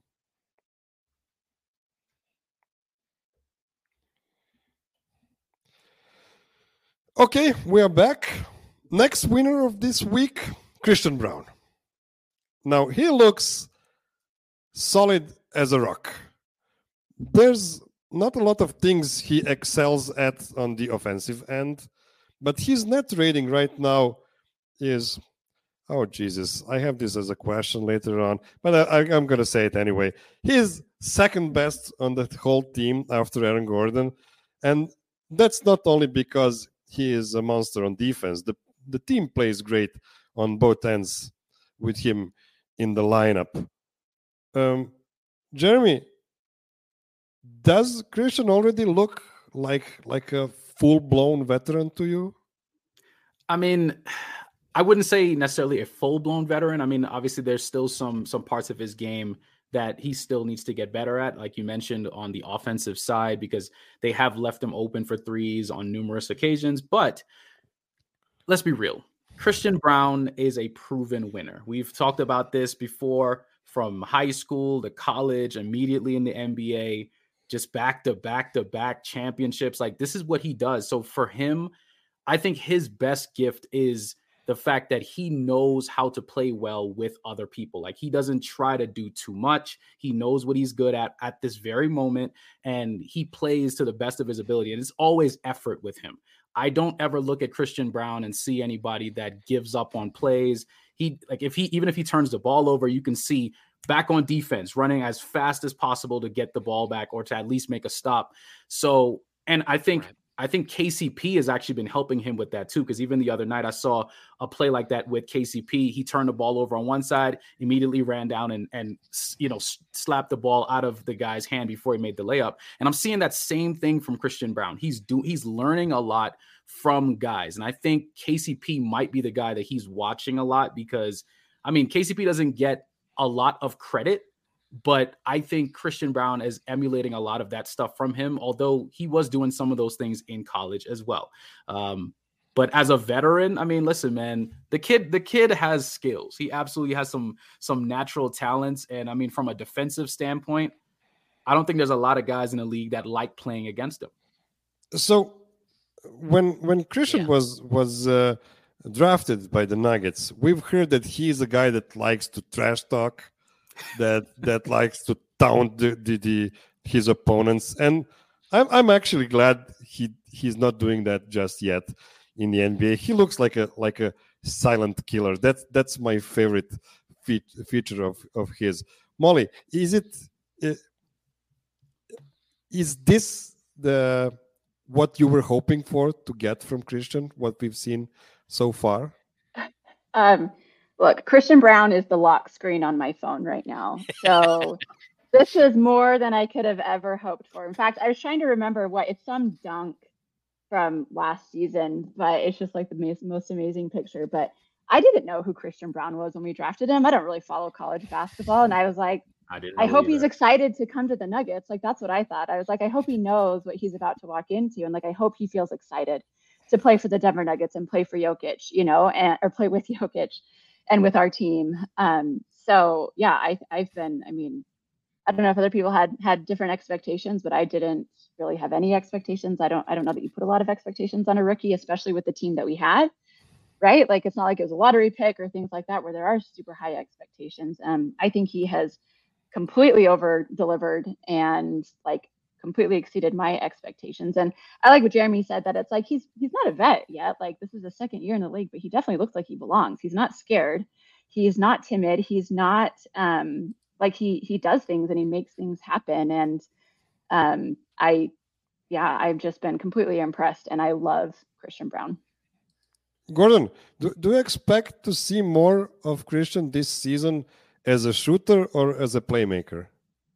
Okay, we are back. Next winner of this week, Christian Braun. Now, he looks solid as a rock. There's not a lot of things he excels at on the offensive end, but his net rating right now is, oh Jesus, I have this as a question later on, but I'm going to say it anyway. He's second best on the whole team after Aaron Gordon, and that's not only because he is a monster on defense. The team plays great on both ends with him in the lineup. Jeremy, does Christian already look like a full-blown veteran to you? I wouldn't say necessarily a full-blown veteran. Obviously there's still some parts of his game that he still needs to get better at, like you mentioned, on the offensive side, because they have left him open for threes on numerous occasions. But let's be real. Christian Braun is a proven winner. We've talked about this before, from high school to college, immediately in the NBA, just back-to-back championships. Like, this is what he does. So for him, I think his best gift is the fact that he knows how to play well with other people. Like, he doesn't try to do too much. He knows what he's good at this very moment, and he plays to the best of his ability. And it's always effort with him. I don't ever look at Christian Braun and see anybody that gives up on plays. Even if he turns the ball over, you can see back on defense, running as fast as possible to get the ball back or to at least make a stop. So, and I think KCP has actually been helping him with that too, because even the other night I saw a play like that with KCP. He turned the ball over on one side, immediately ran down and slapped the ball out of the guy's hand before he made the layup. And I'm seeing that same thing from Christian Braun. He's learning a lot from guys. And I think KCP might be the guy that he's watching a lot, because KCP doesn't get a lot of credit, But I think Christian Braun is emulating a lot of that stuff from him, although he was doing some of those things in college as well. But as a veteran, I mean, listen, man, the kid has skills. He absolutely has some natural talents. And I mean, from a defensive standpoint, I don't think there's a lot of guys in the league that like playing against him. So when Christian was drafted by the Nuggets, we've heard that he's a guy that likes to trash talk, that likes to taunt his opponents, and I'm actually glad he's not doing that just yet in the NBA. He looks like a silent killer. That's my favorite feature of his. Molly, is this what you were hoping for to get from Christian, what we've seen so far? Look, Christian Braun is the lock screen on my phone right now. So this is more than I could have ever hoped for. In fact, I was trying to remember it's some dunk from last season, but it's just like the most amazing picture. But I didn't know who Christian Braun was when we drafted him. I don't really follow college basketball. And I was like, I hope he's excited to come to the Nuggets. Like, that's what I thought. I was like, I hope he knows what he's about to walk into. And like, I hope he feels excited to play for the Denver Nuggets and play for Jokic, or play with Jokic and with our team. So yeah, I've been, I mean, I don't know if other people had different expectations, but I didn't really have any expectations. I don't know that you put a lot of expectations on a rookie, especially with the team that we had, right? Like, it's not like it was a lottery pick or things like that where there are super high expectations. I think he has completely over delivered and like completely exceeded my expectations. And I like what Jeremy said, that it's like he's not a vet yet. Like, this is his second year in the league, but he definitely looks like he belongs. He's not scared. He's not timid. He's not like he does things and he makes things happen. And I've just been completely impressed, and I love Christian Braun. Gordon, do you expect to see more of Christian this season as a shooter or as a playmaker?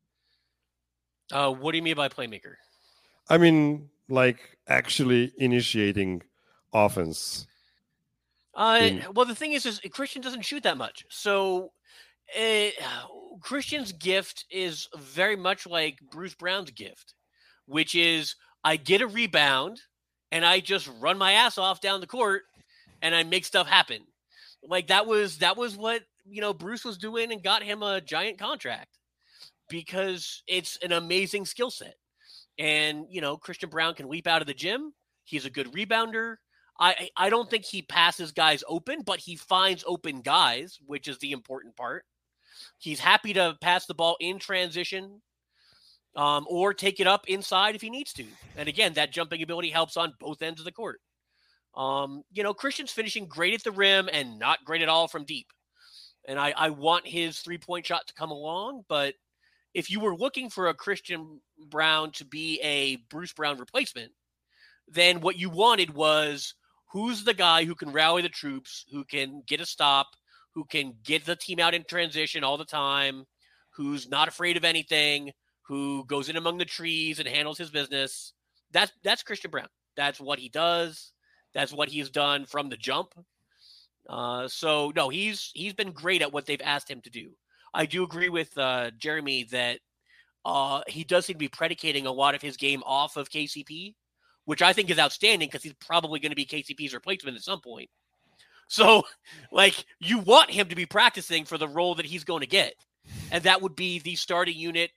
What do you mean by playmaker? I mean, like actually initiating offense. Well, the thing is Christian doesn't shoot that much. So Christian's gift is very much like Bruce Brown's gift, which is I get a rebound and I just run my ass off down the court and I make stuff happen. Like that was what, Bruce was doing and got him a giant contract, because it's an amazing skill set. And, Christian Braun can leap out of the gym. He's a good rebounder. I don't think he passes guys open, but he finds open guys, which is the important part. He's happy to pass the ball in transition or take it up inside if he needs to. And again, that jumping ability helps on both ends of the court. Christian's finishing great at the rim and not great at all from deep. And I want his three-point shot to come along. But if you were looking for a Christian Braun to be a Bruce Brown replacement, then what you wanted was, who's the guy who can rally the troops, who can get a stop, who can get the team out in transition all the time, who's not afraid of anything, who goes in among the trees and handles his business. That's Christian Braun. That's what he does. That's what he's done from the jump. So no, he's been great at what they've asked him to do. I do agree with Jeremy that he does seem to be predicating a lot of his game off of KCP, which I think is outstanding because he's probably going to be KCP's replacement at some point. So, like, you want him to be practicing for the role that he's going to get. And that would be the starting unit,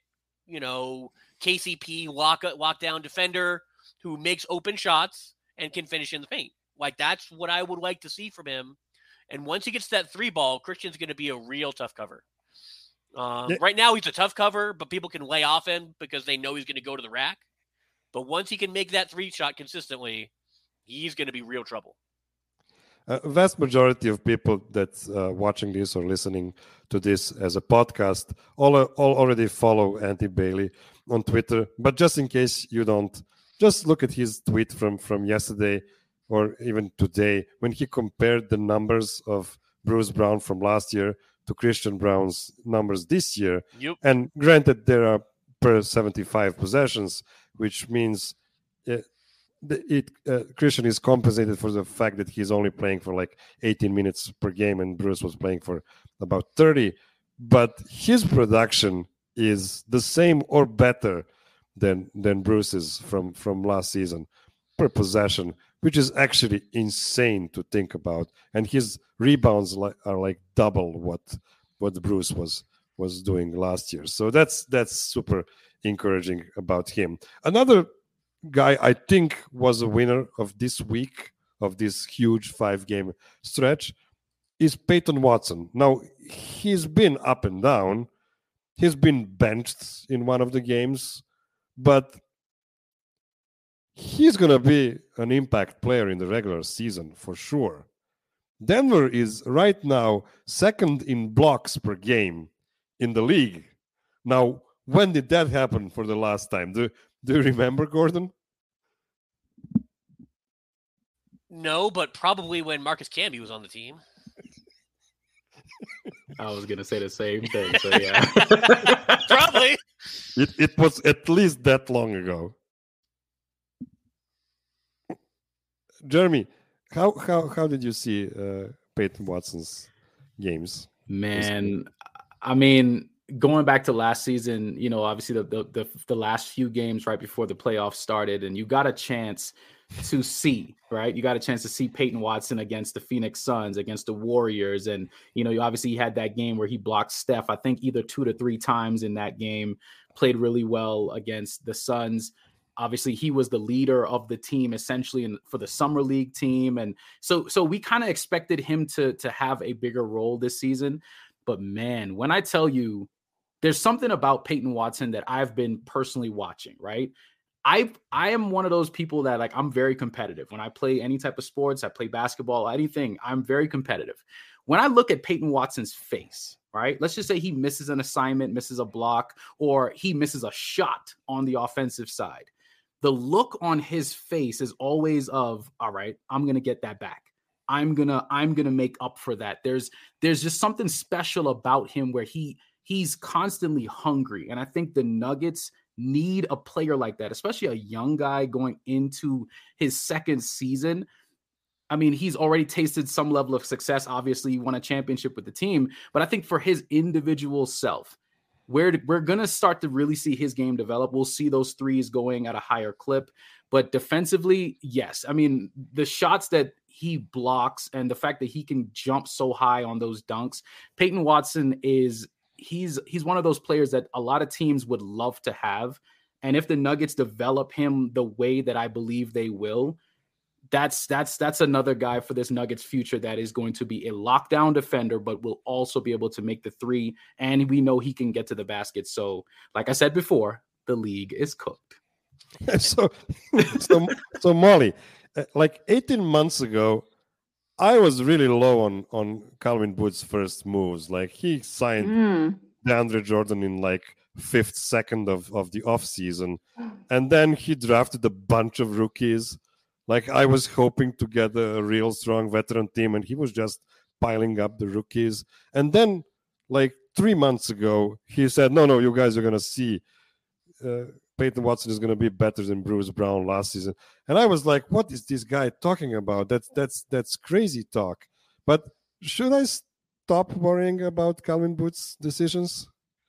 KCP lockdown defender who makes open shots and can finish in the paint. Like, that's what I would like to see from him. And once he gets that three ball, Christian's going to be a real tough cover. Right now, he's a tough cover, but people can lay off him because they know he's going to go to the rack. But once he can make that three shot consistently, he's going to be real trouble. Vast majority of people that's watching this or listening to this as a podcast all already follow Andy Bailey on Twitter. But just in case you don't, just look at his tweet from yesterday or even today when he compared the numbers of Bruce Brown from last year to Christian Braun's numbers this year. Yep. And granted, there are per 75 possessions, which means Christian is compensated for the fact that he's only playing for like 18 minutes per game and Bruce was playing for about 30. But his production is the same or better than Bruce's from last season per possession, which is actually insane to think about. And his rebounds are like double what Bruce was doing last year. So that's super encouraging about him. Another guy I think was a winner of this week, of this huge 5-game stretch, is Peyton Watson. Now, he's been up and down. He's been benched in one of the games, but he's going to be an impact player in the regular season for sure. Denver is right now second in blocks per game in the league. Now, when did that happen for the last time? Do you remember, Gordon? No, but probably when Marcus Camby was on the team. I was gonna say the same thing. So yeah, probably. It was at least that long ago. Jeremy, how did you see Peyton Watson's games? Man, I mean, going back to last season, you know, obviously the last few games right before the playoffs started, and you got a chance to see, right? You got a chance to see Peyton Watson against the Phoenix Suns, against the Warriors. And, you know, you obviously had that game where he blocked Steph, I think either 2 to 3 times in that game, played really well against the Suns. Obviously, he was the leader of the team essentially for the summer league team. And so we kind of expected him to have a bigger role this season. But man, when I tell you, there's something about Peyton Watson that I've been personally watching, right? I am one of those people that, like, I'm very competitive. When I play any type of sports, I play basketball, anything, I'm very competitive. When I look at Peyton Watson's face, right? Let's just say he misses an assignment, misses a block, or he misses a shot on the offensive side. The look on his face is always of, all right, I'm going to get that back. I'm going to make up for that. There's just something special about him where he's constantly hungry. And I think the Nuggets need a player like that, especially a young guy going into his second season. I mean, he's already tasted some level of success. Obviously, he won a championship with the team, but I think for his individual self, we're going to start to really see his game develop. We'll see those threes going at a higher clip, but defensively, yes. I mean, the shots that he blocks and the fact that he can jump so high on those dunks, Peyton Watson is he's one of those players that a lot of teams would love to have. And if the Nuggets develop him the way that I believe they will, that's another guy for this Nuggets future that is going to be a lockdown defender, but will also be able to make the three. And we know he can get to the basket. So like I said before, the league is cooked. So Molly, like 18 months ago, I was really low on Calvin Booth's first moves. Like, he signed DeAndre Jordan in like 5th second of the offseason. And then he drafted a bunch of rookies. Like, I was hoping to get a real strong veteran team, and he was just piling up the rookies. And then, like 3 months ago, he said, no, you guys are going to see Peyton Watson is going to be better than Bruce Brown last season. And I was like, what is this guy talking about? That's crazy talk. But should I stop worrying about Calvin Booth's decisions?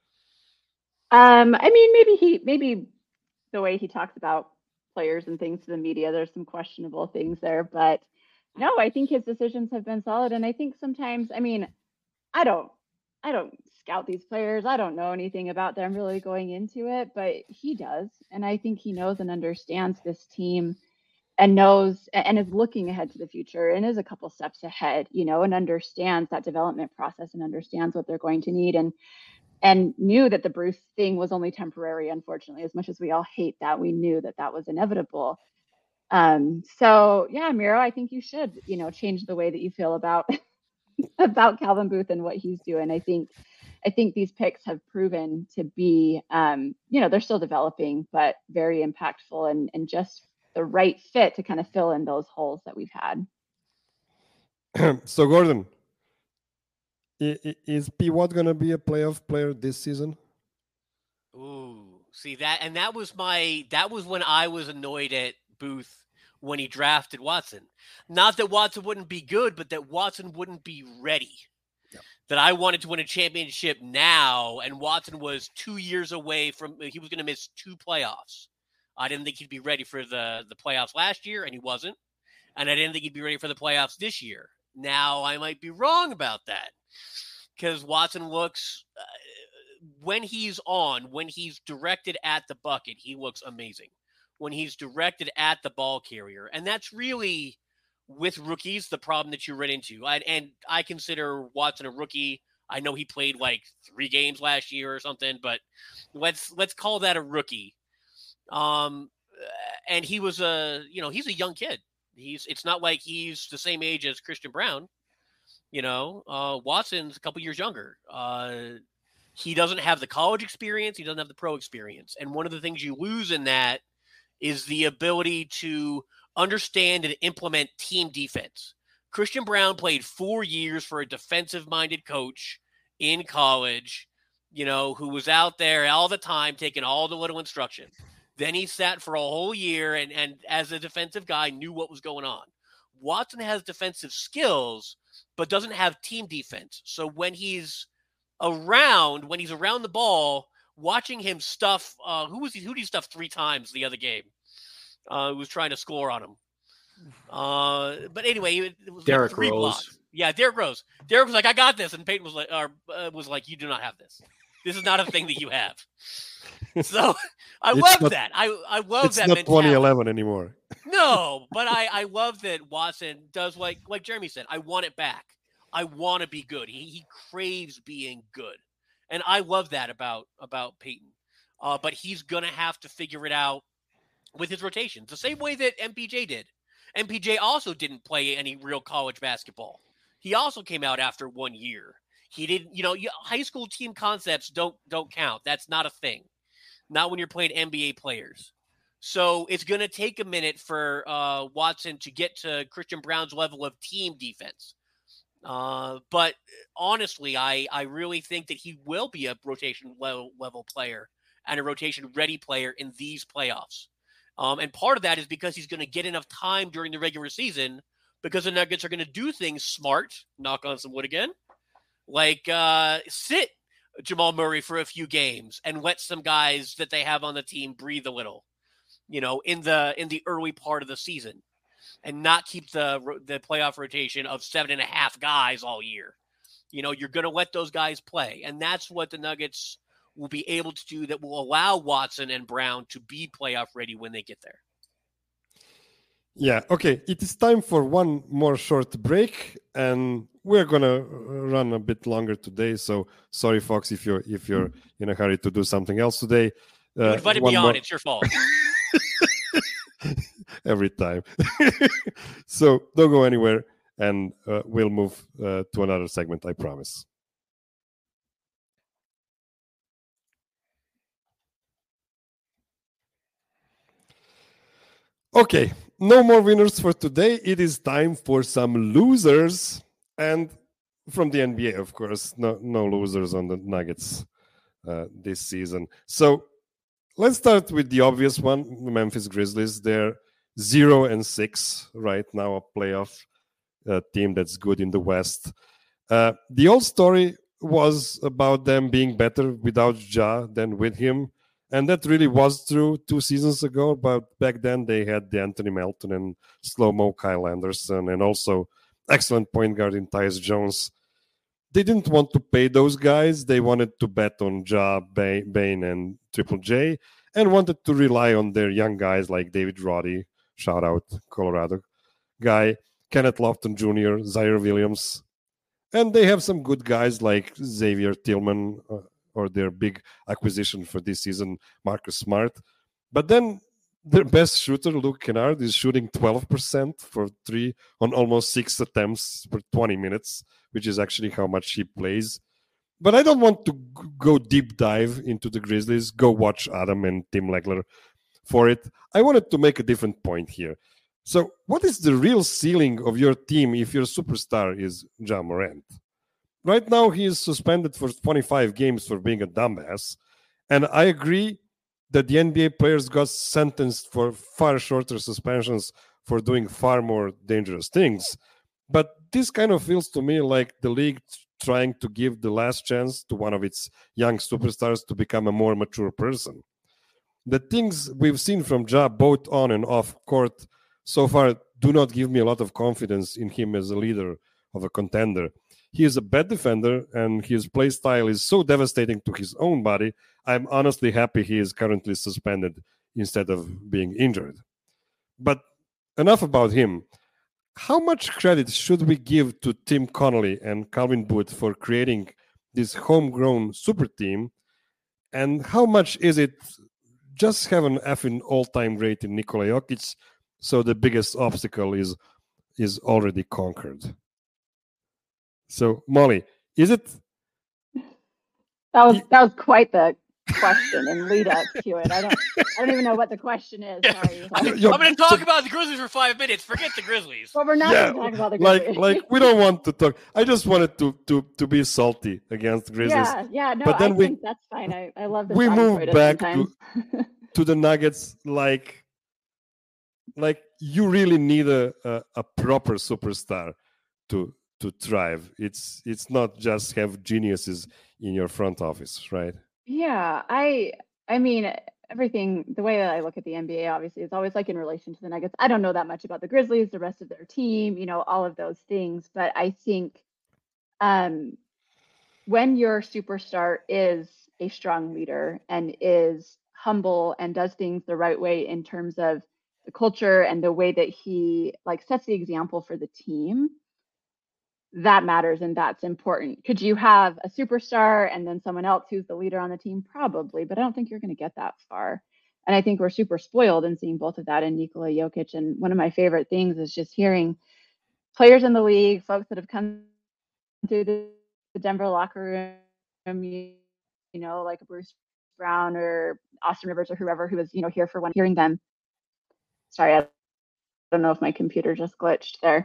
I mean, maybe the way he talks about players and things to the media, there's some questionable things there, but no, I think his decisions have been solid. And I think sometimes, I mean, I don't scout these players. I don't know anything about them really going into it, but he does. And I think he knows and understands this team and knows and is looking ahead to the future and is a couple steps ahead, you know, and understands that development process and understands what they're going to need, and knew that the Bruce thing was only temporary. Unfortunately, as much as we all hate that, we knew that was inevitable. So yeah, Miro, I think you should, you know, change the way that you feel about Calvin Booth and what he's doing. I think these picks have proven to be, you know, they're still developing, but very impactful and just the right fit to kind of fill in those holes that we've had. So, Gordon, is P. Watt going to be a playoff player this season? Ooh, see that, and that was when I was annoyed at Booth when he drafted Watson. Not that Watson wouldn't be good, but that Watson wouldn't be ready. that I wanted to win a championship now, and Watson was 2 years away from, he was going to miss 2 playoffs. I didn't think he'd be ready for the playoffs last year, and he wasn't. And I didn't think he'd be ready for the playoffs this year. Now I might be wrong about that, because Watson looks, when he's directed at the bucket, he looks amazing. When he's directed at the ball carrier. And that's really, with rookies, the problem that you run into. And I consider Watson a rookie. I know he played like 3 games last year or something, but let's call that a rookie. And he was he's a young kid. It's not like he's the same age as Christian Braun. Watson's a couple years younger. He doesn't have the college experience. He doesn't have the pro experience. And one of the things you lose in that is the ability to understand and implement team defense. Christian Braun played 4 years for a defensive-minded coach in college, who was out there all the time taking all the little instruction. Then he sat for a whole year and as a defensive guy knew what was going on. Watson has defensive skills, but doesn't have team defense. So when he's around the ball, watching him stuff, who did he stuff 3 times the other game? Who was trying to score on him. But anyway, it was Derrick like 3 Rose. blocks. Yeah, Derrick Rose. Derrick was like, I got this. And Peyton was like, you do not have this. This is not a thing that you have. So I love that. I love that mentality. It's not 2011 anymore. No, but I love that Watson does like Jeremy said, I want it back. I want to be good. He craves being good. And I love that about Peyton. But he's going to have to figure it out with his rotations, the same way that MPJ did. MPJ also didn't play any real college basketball. He also came out after 1 year. He didn't, high school team concepts don't count. That's not a thing. Not when you're playing NBA players. So it's going to take a minute for Watson to get to Christian Braun's level of team defense. But honestly, I really think that he will be a rotation level player and a rotation ready player in these playoffs. And part of that is because he's going to get enough time during the regular season, because the Nuggets are going to do things smart, knock on some wood again, like sit Jamal Murray for a few games and let some guys that they have on the team breathe a little, in the early part of the season, and not keep the playoff rotation of 7.5 guys all year. You're going to let those guys play. And that's what the Nuggets will be able to do, that will allow Watson and Braun to be playoff ready when they get there. Yeah, okay. It is time for one more short break, and we're gonna run a bit longer today. So sorry, folks, if you're in a hurry to do something else today. You invited me on. It's your fault. Every time. So don't go anywhere, and we'll move to another segment, I promise. Okay, no more winners for today. It is time for some losers. And from the NBA, of course, no losers on the Nuggets this season. So let's start with the obvious one, the Memphis Grizzlies. They're 0-6 right now, a playoff team that's good in the West. The old story was about them being better without Ja than with him. And that really was true 2 seasons ago. But back then they had the Anthony Melton and slow-mo Kyle Anderson, and also excellent point guard in Tyus Jones. They didn't want to pay those guys. They wanted to bet on Ja, Bane, and Triple J, and wanted to rely on their young guys like David Roddy, shout out Colorado guy, Kenneth Lofton Jr., Zaire Williams. And they have some good guys like Xavier Tillman, or their big acquisition for this season, Marcus Smart. But then their best shooter, Luke Kennard, is shooting 12% for 3 on almost 6 attempts per 20 minutes, which is actually how much he plays. But I don't want to go deep dive into the Grizzlies. Go watch Adam and Tim Legler for it. I wanted to make a different point here. So what is the real ceiling of your team if your superstar is Ja Morant? Right now, he is suspended for 25 games for being a dumbass. And I agree that the NBA players got sentenced for far shorter suspensions for doing far more dangerous things. But this kind of feels to me like the league trying to give the last chance to one of its young superstars to become a more mature person. The things we've seen from Ja, both on and off court, so far do not give me a lot of confidence in him as a leader of a contender. He is a bad defender, and his play style is so devastating to his own body. I'm honestly happy he is currently suspended instead of being injured. But enough about him. How much credit should we give to Tim Connolly and Calvin Booth for creating this homegrown super team? And how much is it just have an effing all-time great in Nikola Jokic, so the biggest obstacle is already conquered? So, Molly, is it? That was quite the question and lead up to it. I don't even know what the question is. Sorry. I'm going to talk about the Grizzlies for 5 minutes. Forget the Grizzlies. Well, we're not going to talk about the Grizzlies. Like we don't want to talk. I just wanted to be salty against the Grizzlies. Yeah. No, but then I think that's fine. I love this. We move back to the Nuggets. Like you really need a proper superstar to thrive. It's not just have geniuses in your front office, right? Yeah, I mean, everything, the way that I look at the NBA, obviously, is always like in relation to the Nuggets. I don't know that much about the Grizzlies, the rest of their team, all of those things. But I think when your superstar is a strong leader and is humble and does things the right way in terms of the culture and the way that he sets the example for the team, that matters and that's important. Could you have a superstar and then someone else who's the leader on the team? Probably, but I don't think you're going to get that far. And I think we're super spoiled in seeing both of that in Nikola Jokic. And one of my favorite things is just hearing players in the league, folks that have come through the Denver locker room, like Bruce Brown or Austin Rivers or whoever who was, here for one, hearing them. Sorry, I don't know if my computer just glitched there.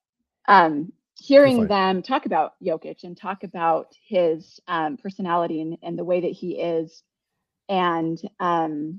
Hearing them talk about Jokic and talk about his personality and the way that he is. And sorry,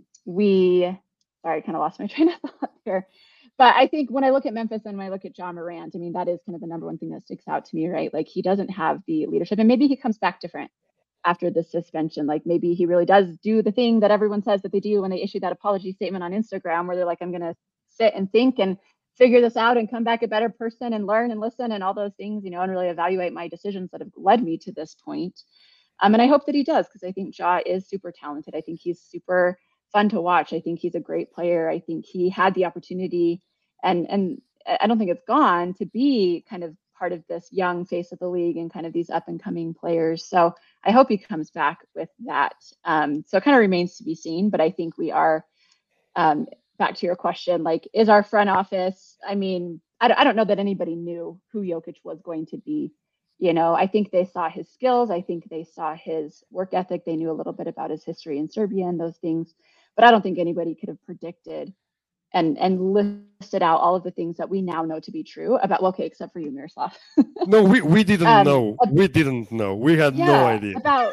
I kind of lost my train of thought here. But I think when I look at Memphis and when I look at Ja Morant, I mean, that is kind of the number one thing that sticks out to me, right? Like he doesn't have the leadership, and maybe he comes back different after the suspension. Like maybe he really does do the thing that everyone says that they do when they issue that apology statement on Instagram, where they're like, I'm going to sit and think and figure this out and come back a better person and learn and listen and all those things, and really evaluate my decisions that have led me to this point. And I hope that he does, because I think Ja is super talented. I think he's super fun to watch. I think he's a great player. I think he had the opportunity, and I don't think it's gone, to be kind of part of this young face of the league and kind of these up and coming players. So I hope he comes back with that. So it kind of remains to be seen, but I think we are, back to your question, like, is our front office, I mean, I don't know that anybody knew who Jokic was going to be. I think they saw his skills. I think they saw his work ethic. They knew a little bit about his history in Serbia and those things, but I don't think anybody could have predicted and listed out all of the things that we now know to be true about, well, okay, except for you, Miroslav. No, we didn't know. We didn't know. We had no idea. About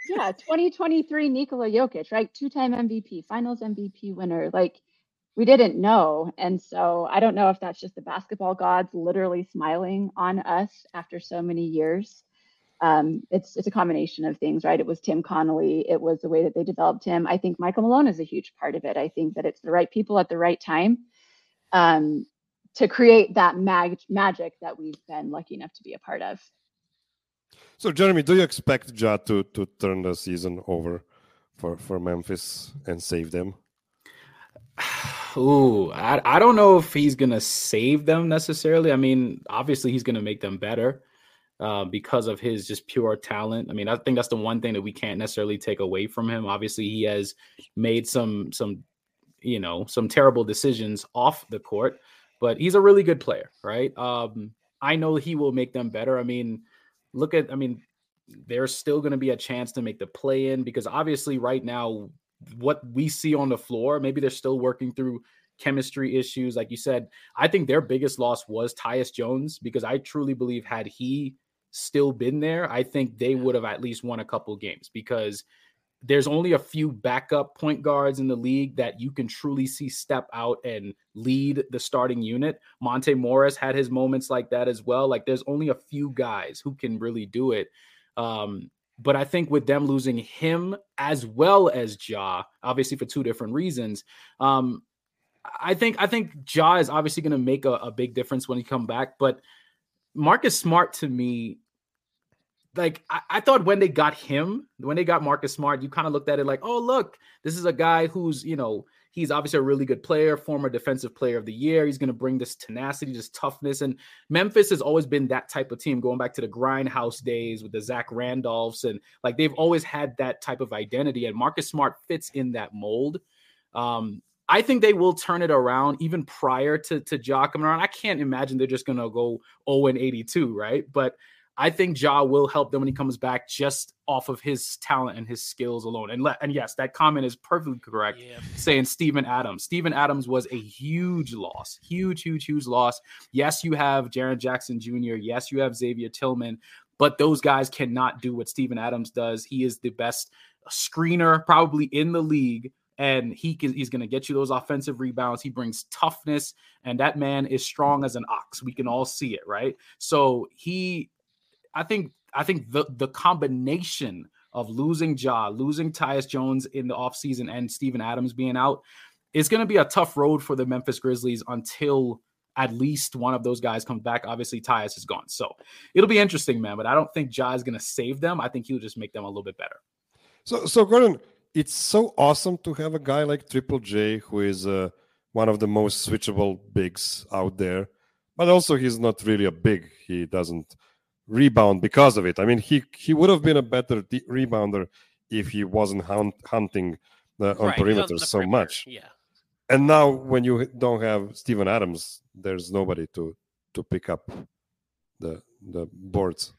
2023 Nikola Jokic, right? 2-time MVP, finals MVP winner. Like, we didn't know. And so I don't know if that's just the basketball gods literally smiling on us after so many years. It's a combination of things, right? It was Tim Connolly. It was the way that they developed him. I think Michael Malone is a huge part of it. I think that it's the right people at the right time to create that magic that we've been lucky enough to be a part of. So, Jeremy, do you expect Ja to turn the season over for Memphis and save them? Ooh, I don't know if he's going to save them necessarily. I mean, obviously he's going to make them better because of his just pure talent. I mean, I think that's the one thing that we can't necessarily take away from him. Obviously, he has made some terrible decisions off the court, but he's a really good player, right? I know he will make them better. I mean, there's still going to be a chance to make the play-in, because obviously right now, what we see on the floor, maybe they're still working through chemistry issues. Like you said, I think their biggest loss was Tyus Jones, because I truly believe had he still been there, I think they would have at least won a couple games, because there's only a few backup point guards in the league that you can truly see step out and lead the starting unit. Monte Morris had his moments like that as well. Like there's only a few guys who can really do it. But I think with them losing him as well as Ja, obviously for two different reasons, I think Ja is obviously going to make a big difference when he come back. But Marcus Smart, to me, like I thought when they got Marcus Smart, you kind of looked at it like, oh, look, this is a guy who's, he's obviously a really good player, former defensive player of the year. He's going to bring this tenacity, this toughness. And Memphis has always been that type of team, going back to the Grindhouse days with the Zach Randolphs. And like, they've always had that type of identity. And Marcus Smart fits in that mold. I think they will turn it around even prior to Ja coming around. I can't imagine they're just going to go 0-82, right? But I think Ja will help them when he comes back just off of his talent and his skills alone. And yes, that comment is perfectly correct, saying Steven Adams. Steven Adams was a huge loss, huge loss. Yes, you have Jaren Jackson Jr. Yes, you have Xavier Tillman, but those guys cannot do what Steven Adams does. He is the best screener probably in the league. And he's going to get you those offensive rebounds. He brings toughness, and that man is strong as an ox. We can all see it, right? So I think the combination of losing Ja, losing Tyus Jones in the offseason, and Steven Adams being out is going to be a tough road for the Memphis Grizzlies until at least one of those guys comes back. Obviously, Tyus is gone. So it'll be interesting, man. But I don't think Ja is going to save them. I think he'll just make them a little bit better. So Gordon, it's so awesome to have a guy like Triple J, who is one of the most switchable bigs out there. But also, he's not really a big. He doesn't rebound because of it. I mean, he would have been a better rebounder if he wasn't hunting on perimeter so much. Yeah. And now when you don't have Steven Adams, there's nobody to pick up the boards.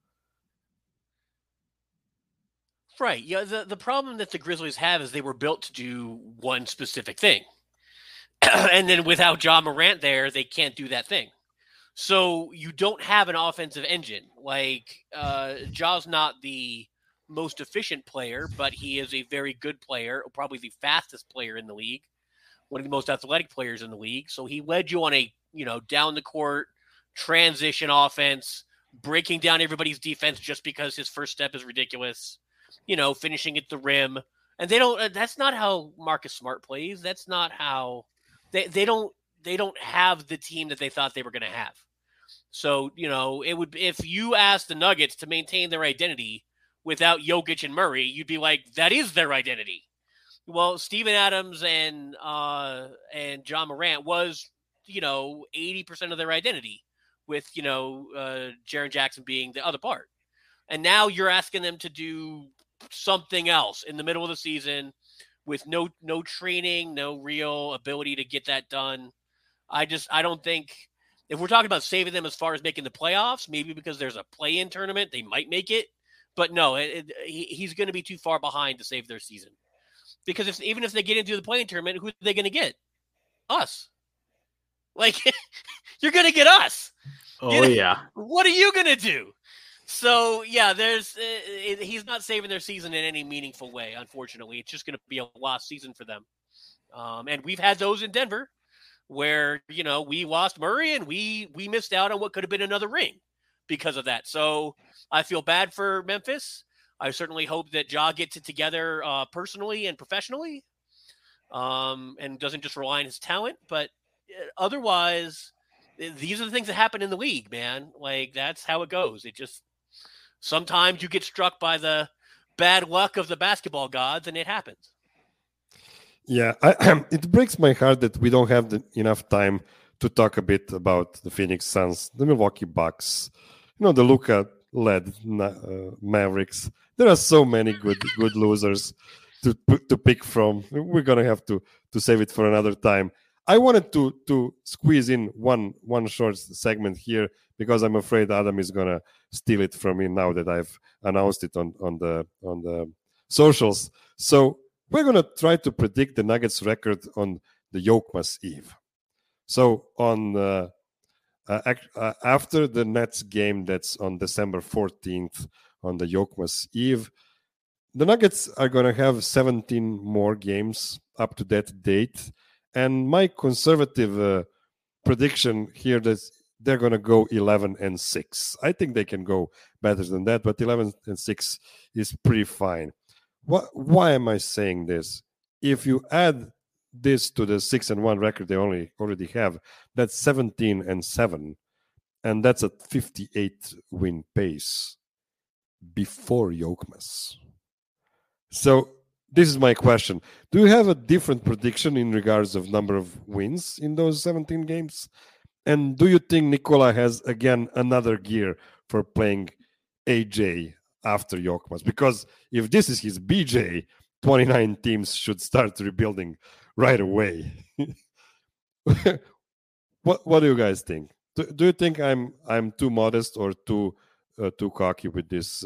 Right. Yeah. The problem that the Grizzlies have is they were built to do one specific thing. And then without Ja Morant there, they can't do that thing. So you don't have an offensive engine. Like Ja's not the most efficient player, but he is a very good player, probably the fastest player in the league, one of the most athletic players in the league. So he led you on a, down the court transition offense, breaking down everybody's defense just because his first step is ridiculous, finishing at the rim. And that's not how Marcus Smart plays. That's not how they don't have the team that they thought they were going to have. So, it would, if you asked the Nuggets to maintain their identity without Jokic and Murray, you'd be like, that is their identity. Well, Steven Adams and Ja Morant was, 80% of their identity, with, Jaren Jackson being the other part. And now you're asking them to do something else in the middle of the season with no training, no real ability to get that done. I don't think, if we're talking about saving them as far as making the playoffs, maybe because there's a play-in tournament, they might make it. But no, he's going to be too far behind to save their season. Because even if they get into the play-in tournament, who are they going to get? Us. Like, you're going to get us. Oh, yeah. What are you going to do? So, yeah, he's not saving their season in any meaningful way, unfortunately. It's just going to be a lost season for them. And we've had those in Denver, where, we lost Murray and we missed out on what could have been another ring because of that. So I feel bad for Memphis. I certainly hope that Ja gets it together personally and professionally, and doesn't just rely on his talent. But otherwise, these are the things that happen in the league, man. Like, that's how it goes. It just, sometimes you get struck by the bad luck of the basketball gods, and it happens. Yeah, it breaks my heart that we don't have enough time to talk a bit about the Phoenix Suns, the Milwaukee Bucks, the Luka-led Mavericks. There are so many good losers to pick from. We're gonna have to save it for another time. I wanted to squeeze in one short segment here because I'm afraid Adam is gonna steal it from me now that I've announced it on the socials. So we're going to try to predict the Nuggets record on the Yokmas Eve. So on after the Nets game that's on December 14th on the Yokmas Eve, the Nuggets are going to have 17 more games up to that date. And my conservative prediction here is they're going to go 11-6. I think they can go better than that, but 11-6 is pretty fine. Why am I saying this? If you add this to the 6-1 record they already have, that's 17-7, and that's a 58 win pace before Yokmas. So this is my question. Do you have a different prediction in regards of number of wins in those 17 games? And do you think Nikola has, again, another gear for playing AJ after Yokmas? Because if this is his BJ, 29 teams should start rebuilding right away. What do you guys think? Do you think I'm too modest or too cocky with this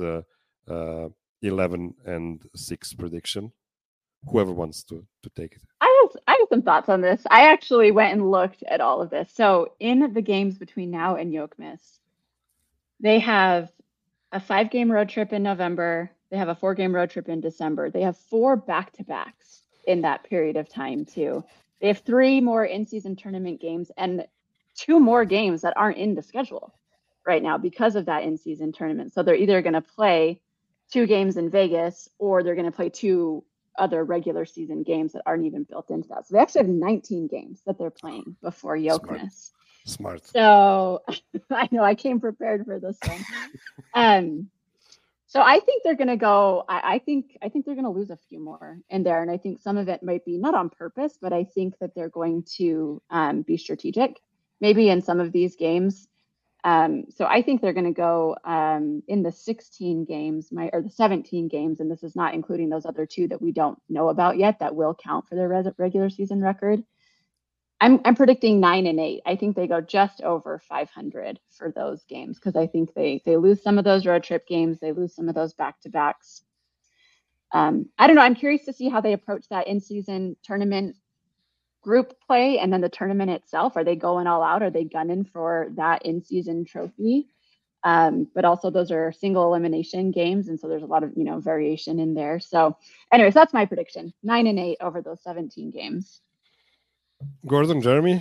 11-6 prediction? Whoever wants to take it. I have some thoughts on this. I actually went and looked at all of this. So in the games between now and Yokmas, they have a 5-game road trip in November. They have a 4-game road trip in December. They have 4 back-to-backs in that period of time too. They have 3 more in-season tournament games and 2 more games that aren't in the schedule right now because of that in-season tournament. So they're either going to play 2 games in Vegas or they're going to play 2 other regular season games that aren't even built into that. So they actually have 19 games that they're playing before Yokmas. Smart. So I know I came prepared for this one. So I think they're going to go. I think they're going to lose a few more in there, and I think some of it might be not on purpose, but I think that they're going to be strategic, maybe in some of these games. So I think they're going to go in the 16 games, or the 17 games, and this is not including those other 2 that we don't know about yet that will count for their regular season record. I'm predicting 9-8. I think they go just over 500 for those games because I think they lose some of those road trip games, they lose some of those back-to-backs. I don't know. I'm curious to see how they approach that in-season tournament group play and then the tournament itself. Are they going all out? Are they gunning for that in-season trophy? But also those are single elimination games, and so there's a lot of variation in there. So anyways, that's my prediction. 9-8 over those 17 games. Gordon, Jeremy?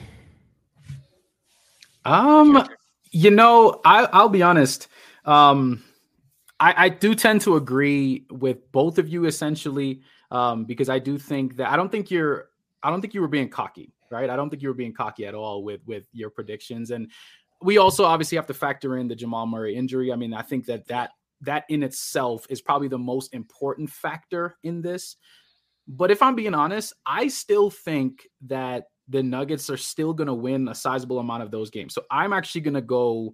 I'll be honest. I do tend to agree with both of you essentially, because I do think that I don't think you were being cocky, right? I don't think you were being cocky at all with your predictions. And we also obviously have to factor in the Jamal Murray injury. I mean, I think that in itself is probably the most important factor in this. But if I'm being honest, I still think that the Nuggets are still going to win a sizable amount of those games. So I'm actually going to go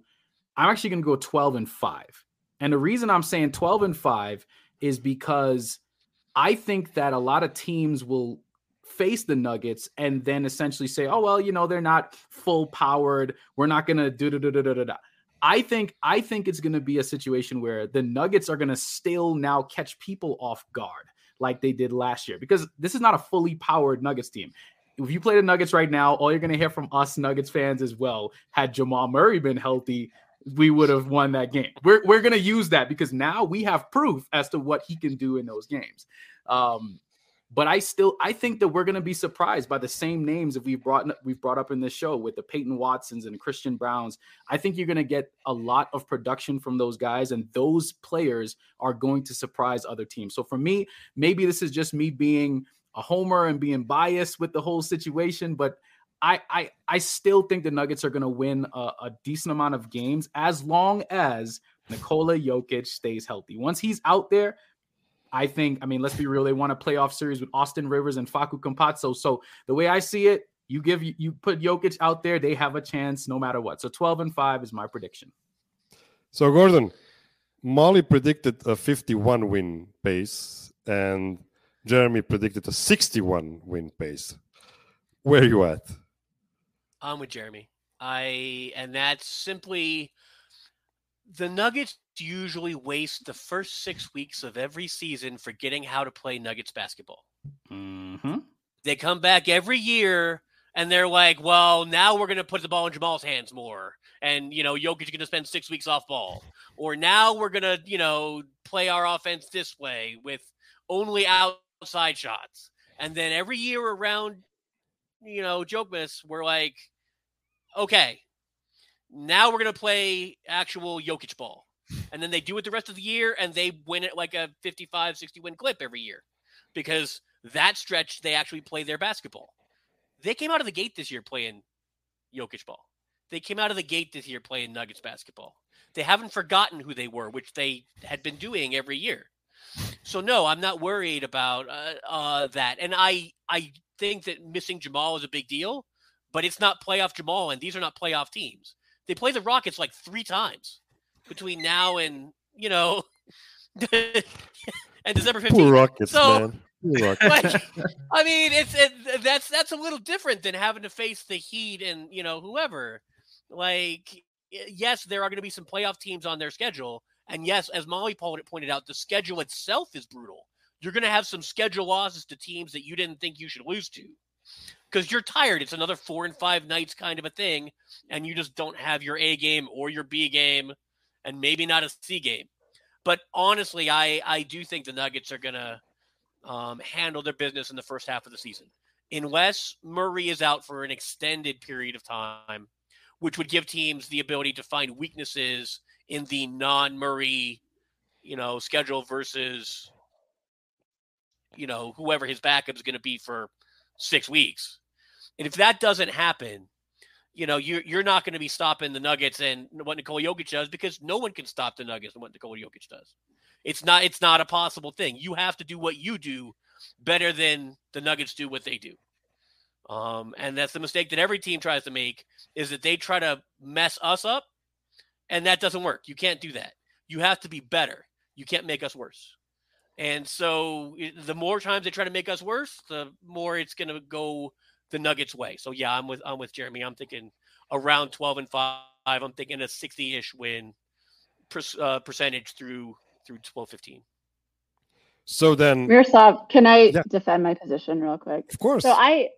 12-5. And the reason I'm saying 12-5 is because I think that a lot of teams will face the Nuggets and then essentially say, oh, well, they're not full powered. We're not going to do. I think it's going to be a situation where the Nuggets are going to still now catch people off guard like they did last year, because this is not a fully powered Nuggets team. If you play the Nuggets right now, all you're going to hear from us Nuggets fans as well, had Jamal Murray been healthy, we would have won that game. We're going to use that because now we have proof as to what he can do in those games. But I think that we're going to be surprised by the same names that we've brought up in this show with the Peyton Watsons and Christian Browns. I think you're going to get a lot of production from those guys, and those players are going to surprise other teams. So for me, maybe this is just me being a homer and being biased with the whole situation, but I still think the Nuggets are going to win a decent amount of games as long as Nikola Jokic stays healthy. Once he's out there, let's be real, they want a playoff series with Austin Rivers and Facu Campazzo. So the way I see it, you put Jokic out there, they have a chance no matter what. So 12-5 is my prediction. So Gordon, Molly predicted a 51 win pace and Jeremy predicted a 61 win pace. Where are you at? I'm with Jeremy. And that's simply the Nuggets usually waste the first 6 weeks of every season forgetting how to play Nuggets basketball. Mm-hmm. They come back every year and they're like, well, now we're going to put the ball in Jamal's hands more. And, Jokic is going to spend 6 weeks off ball. Or now we're going to, play our offense this way with only outside shots. And then every year around, Jokemas, we're like, okay, now we're going to play actual Jokic ball. And then they do it the rest of the year, and they win it like a 55, 60 win clip every year. Because that stretch, they actually play their basketball. They came out of the gate this year playing Jokic ball. They came out of the gate this year playing Nuggets basketball. They haven't forgotten who they were, which they had been doing every year. So, no, I'm not worried about that. And I think that missing Jamal is a big deal, but it's not playoff Jamal, and these are not playoff teams. They play the Rockets like 3 times between now and, and December 15th. Poor Rockets, man. Poor Rockets. Like, I mean, that's a little different than having to face the Heat and, whoever. Like, yes, there are going to be some playoff teams on their schedule. And yes, as Molly pointed out, the schedule itself is brutal. You're going to have some schedule losses to teams that you didn't think you should lose to because you're tired. It's another 4 and 5 nights kind of a thing. And you just don't have your A game or your B game and maybe not a C game. But honestly, I do think the Nuggets are going to handle their business in the first half of the season. Unless Murray is out for an extended period of time, which would give teams the ability to find weaknesses in the non-Murray, schedule versus, whoever his backup is going to be for 6 weeks. And if that doesn't happen, you're not going to be stopping the Nuggets and what Nikola Jokic does because no one can stop the Nuggets and what Nikola Jokic does. It's not a possible thing. You have to do what you do better than the Nuggets do what they do. And that's the mistake that every team tries to make is that they try to mess us up, and that doesn't work. You can't do that. You have to be better. You can't make us worse. And so the more times they try to make us worse, the more it's going to go the Nuggets' way. So yeah, I'm with Jeremy. I'm thinking around 12-5. I'm thinking a 60-ish win percentage through 12-15. So then, Miroslav, can I defend my position real quick? Of course. So my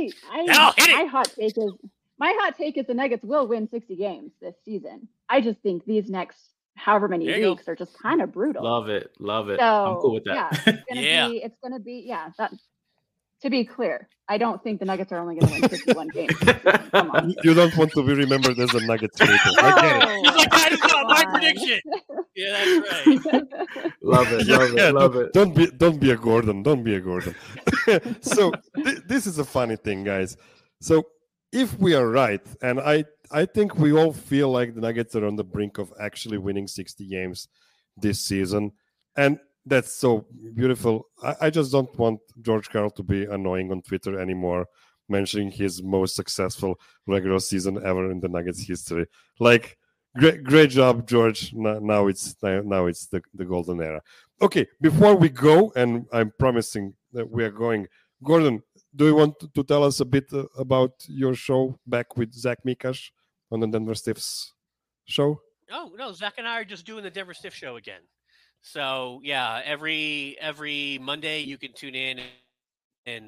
hot take is the Nuggets will win 60 games this season. I just think these next however many weeks are just kind of brutal. Love it. So, I'm cool with that. It's gonna be that. To be clear, I don't think the Nuggets are only going to win 51 games. Come on. You don't want to be remembered as a Nuggets hater. I get it. He's like, that is not my prediction. Yeah, that's right. Love it. Don't be a Gordon. Don't be a Gordon. So this is a funny thing, guys. So if we are right, and I think we all feel like the Nuggets are on the brink of actually winning 60 games this season, and that's so beautiful. I just don't want George Karl to be annoying on Twitter anymore, mentioning his most successful regular season ever in the Nuggets history. Like, great job, George. Now it's the golden era. Okay, before we go, and I'm promising that we are going, Gordon, do you want to tell us a bit about your show back with Zach Mikash on the Denver Stiffs show? Oh, no, Zach and I are just doing the Denver Stiff show again. So yeah, every Monday you can tune in and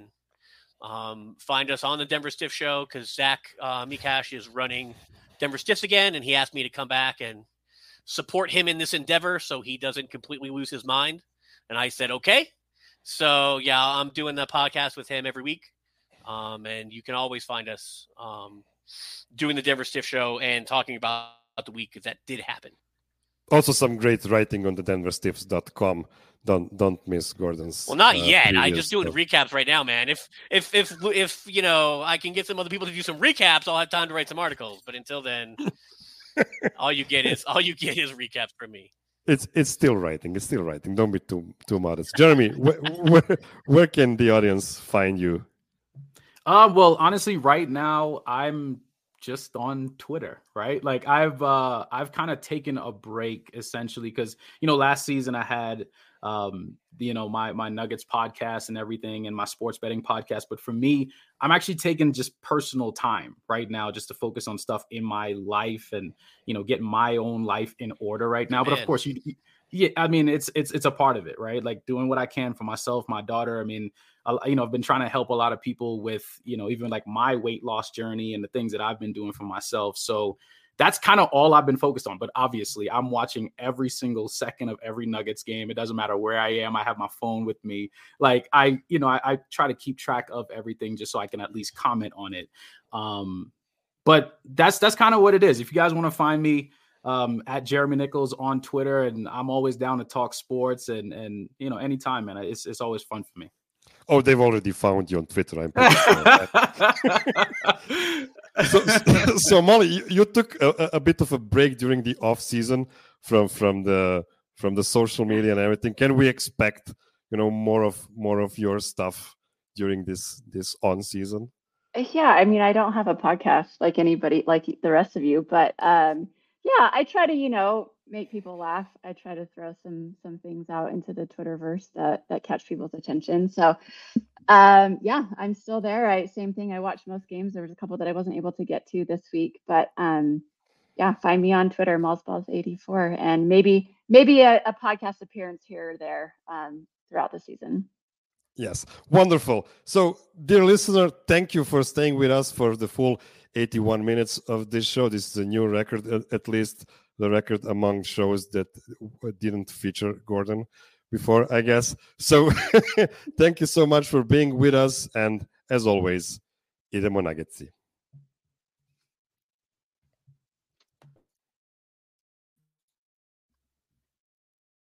find us on the Denver Stiff show because Zach Mikash is running Denver Stiffs again, and he asked me to come back and support him in this endeavor so he doesn't completely lose his mind. And I said, okay. So yeah, I'm doing the podcast with him every week, and you can always find us doing the Denver Stiff show and talking about the week that did happen. Also, some great writing on the denverstiffs.com. Don't miss Gordon's. Well, not yet. I'm just doing recaps right now, man. If I can get some other people to do some recaps, I'll have time to write some articles. But until then, all you get is recaps from me. It's still writing. It's still writing. Don't be too modest. Jeremy, where can the audience find you? Well, honestly, right now I'm just on Twitter, right? Like I've kind of taken a break essentially because, last season I had, my Nuggets podcast and everything and my sports betting podcast. But for me, I'm actually taking just personal time right now just to focus on stuff in my life and, get my own life in order right now. But of course, it's a part of it, right? Like doing what I can for myself, my daughter. I mean, I've been trying to help a lot of people with, even like my weight loss journey and the things that I've been doing for myself. So that's kind of all I've been focused on. But obviously, I'm watching every single second of every Nuggets game. It doesn't matter where I am. I have my phone with me. Like I try to keep track of everything just so I can at least comment on it. But that's kind of what it is. If you guys want to find me at Jeremy Nichols on Twitter, and I'm always down to talk sports and anytime, man. It's always fun for me. Oh, they've already found you on Twitter. I'm pretty sure. So Molly, you took a bit of a break during the off season from the social media and everything. Can we expect more of your stuff during this on season? Yeah, I mean, I don't have a podcast like anybody, like the rest of you, but yeah, I try to, make people laugh. I try to throw some things out into the Twitterverse that catch people's attention. So, yeah, I'm still there. Same thing. I watch most games. There was a couple that I wasn't able to get to this week, but yeah, find me on Twitter, Malzballs84, and maybe a podcast appearance here or there throughout the season. Yes, wonderful. So, dear listener, thank you for staying with us for the full 81 minutes of this show. This is a new record, at least the record among shows that didn't feature Gordon before, I guess. So, thank you so much for being with us. And as always, idemo Nuggetsi.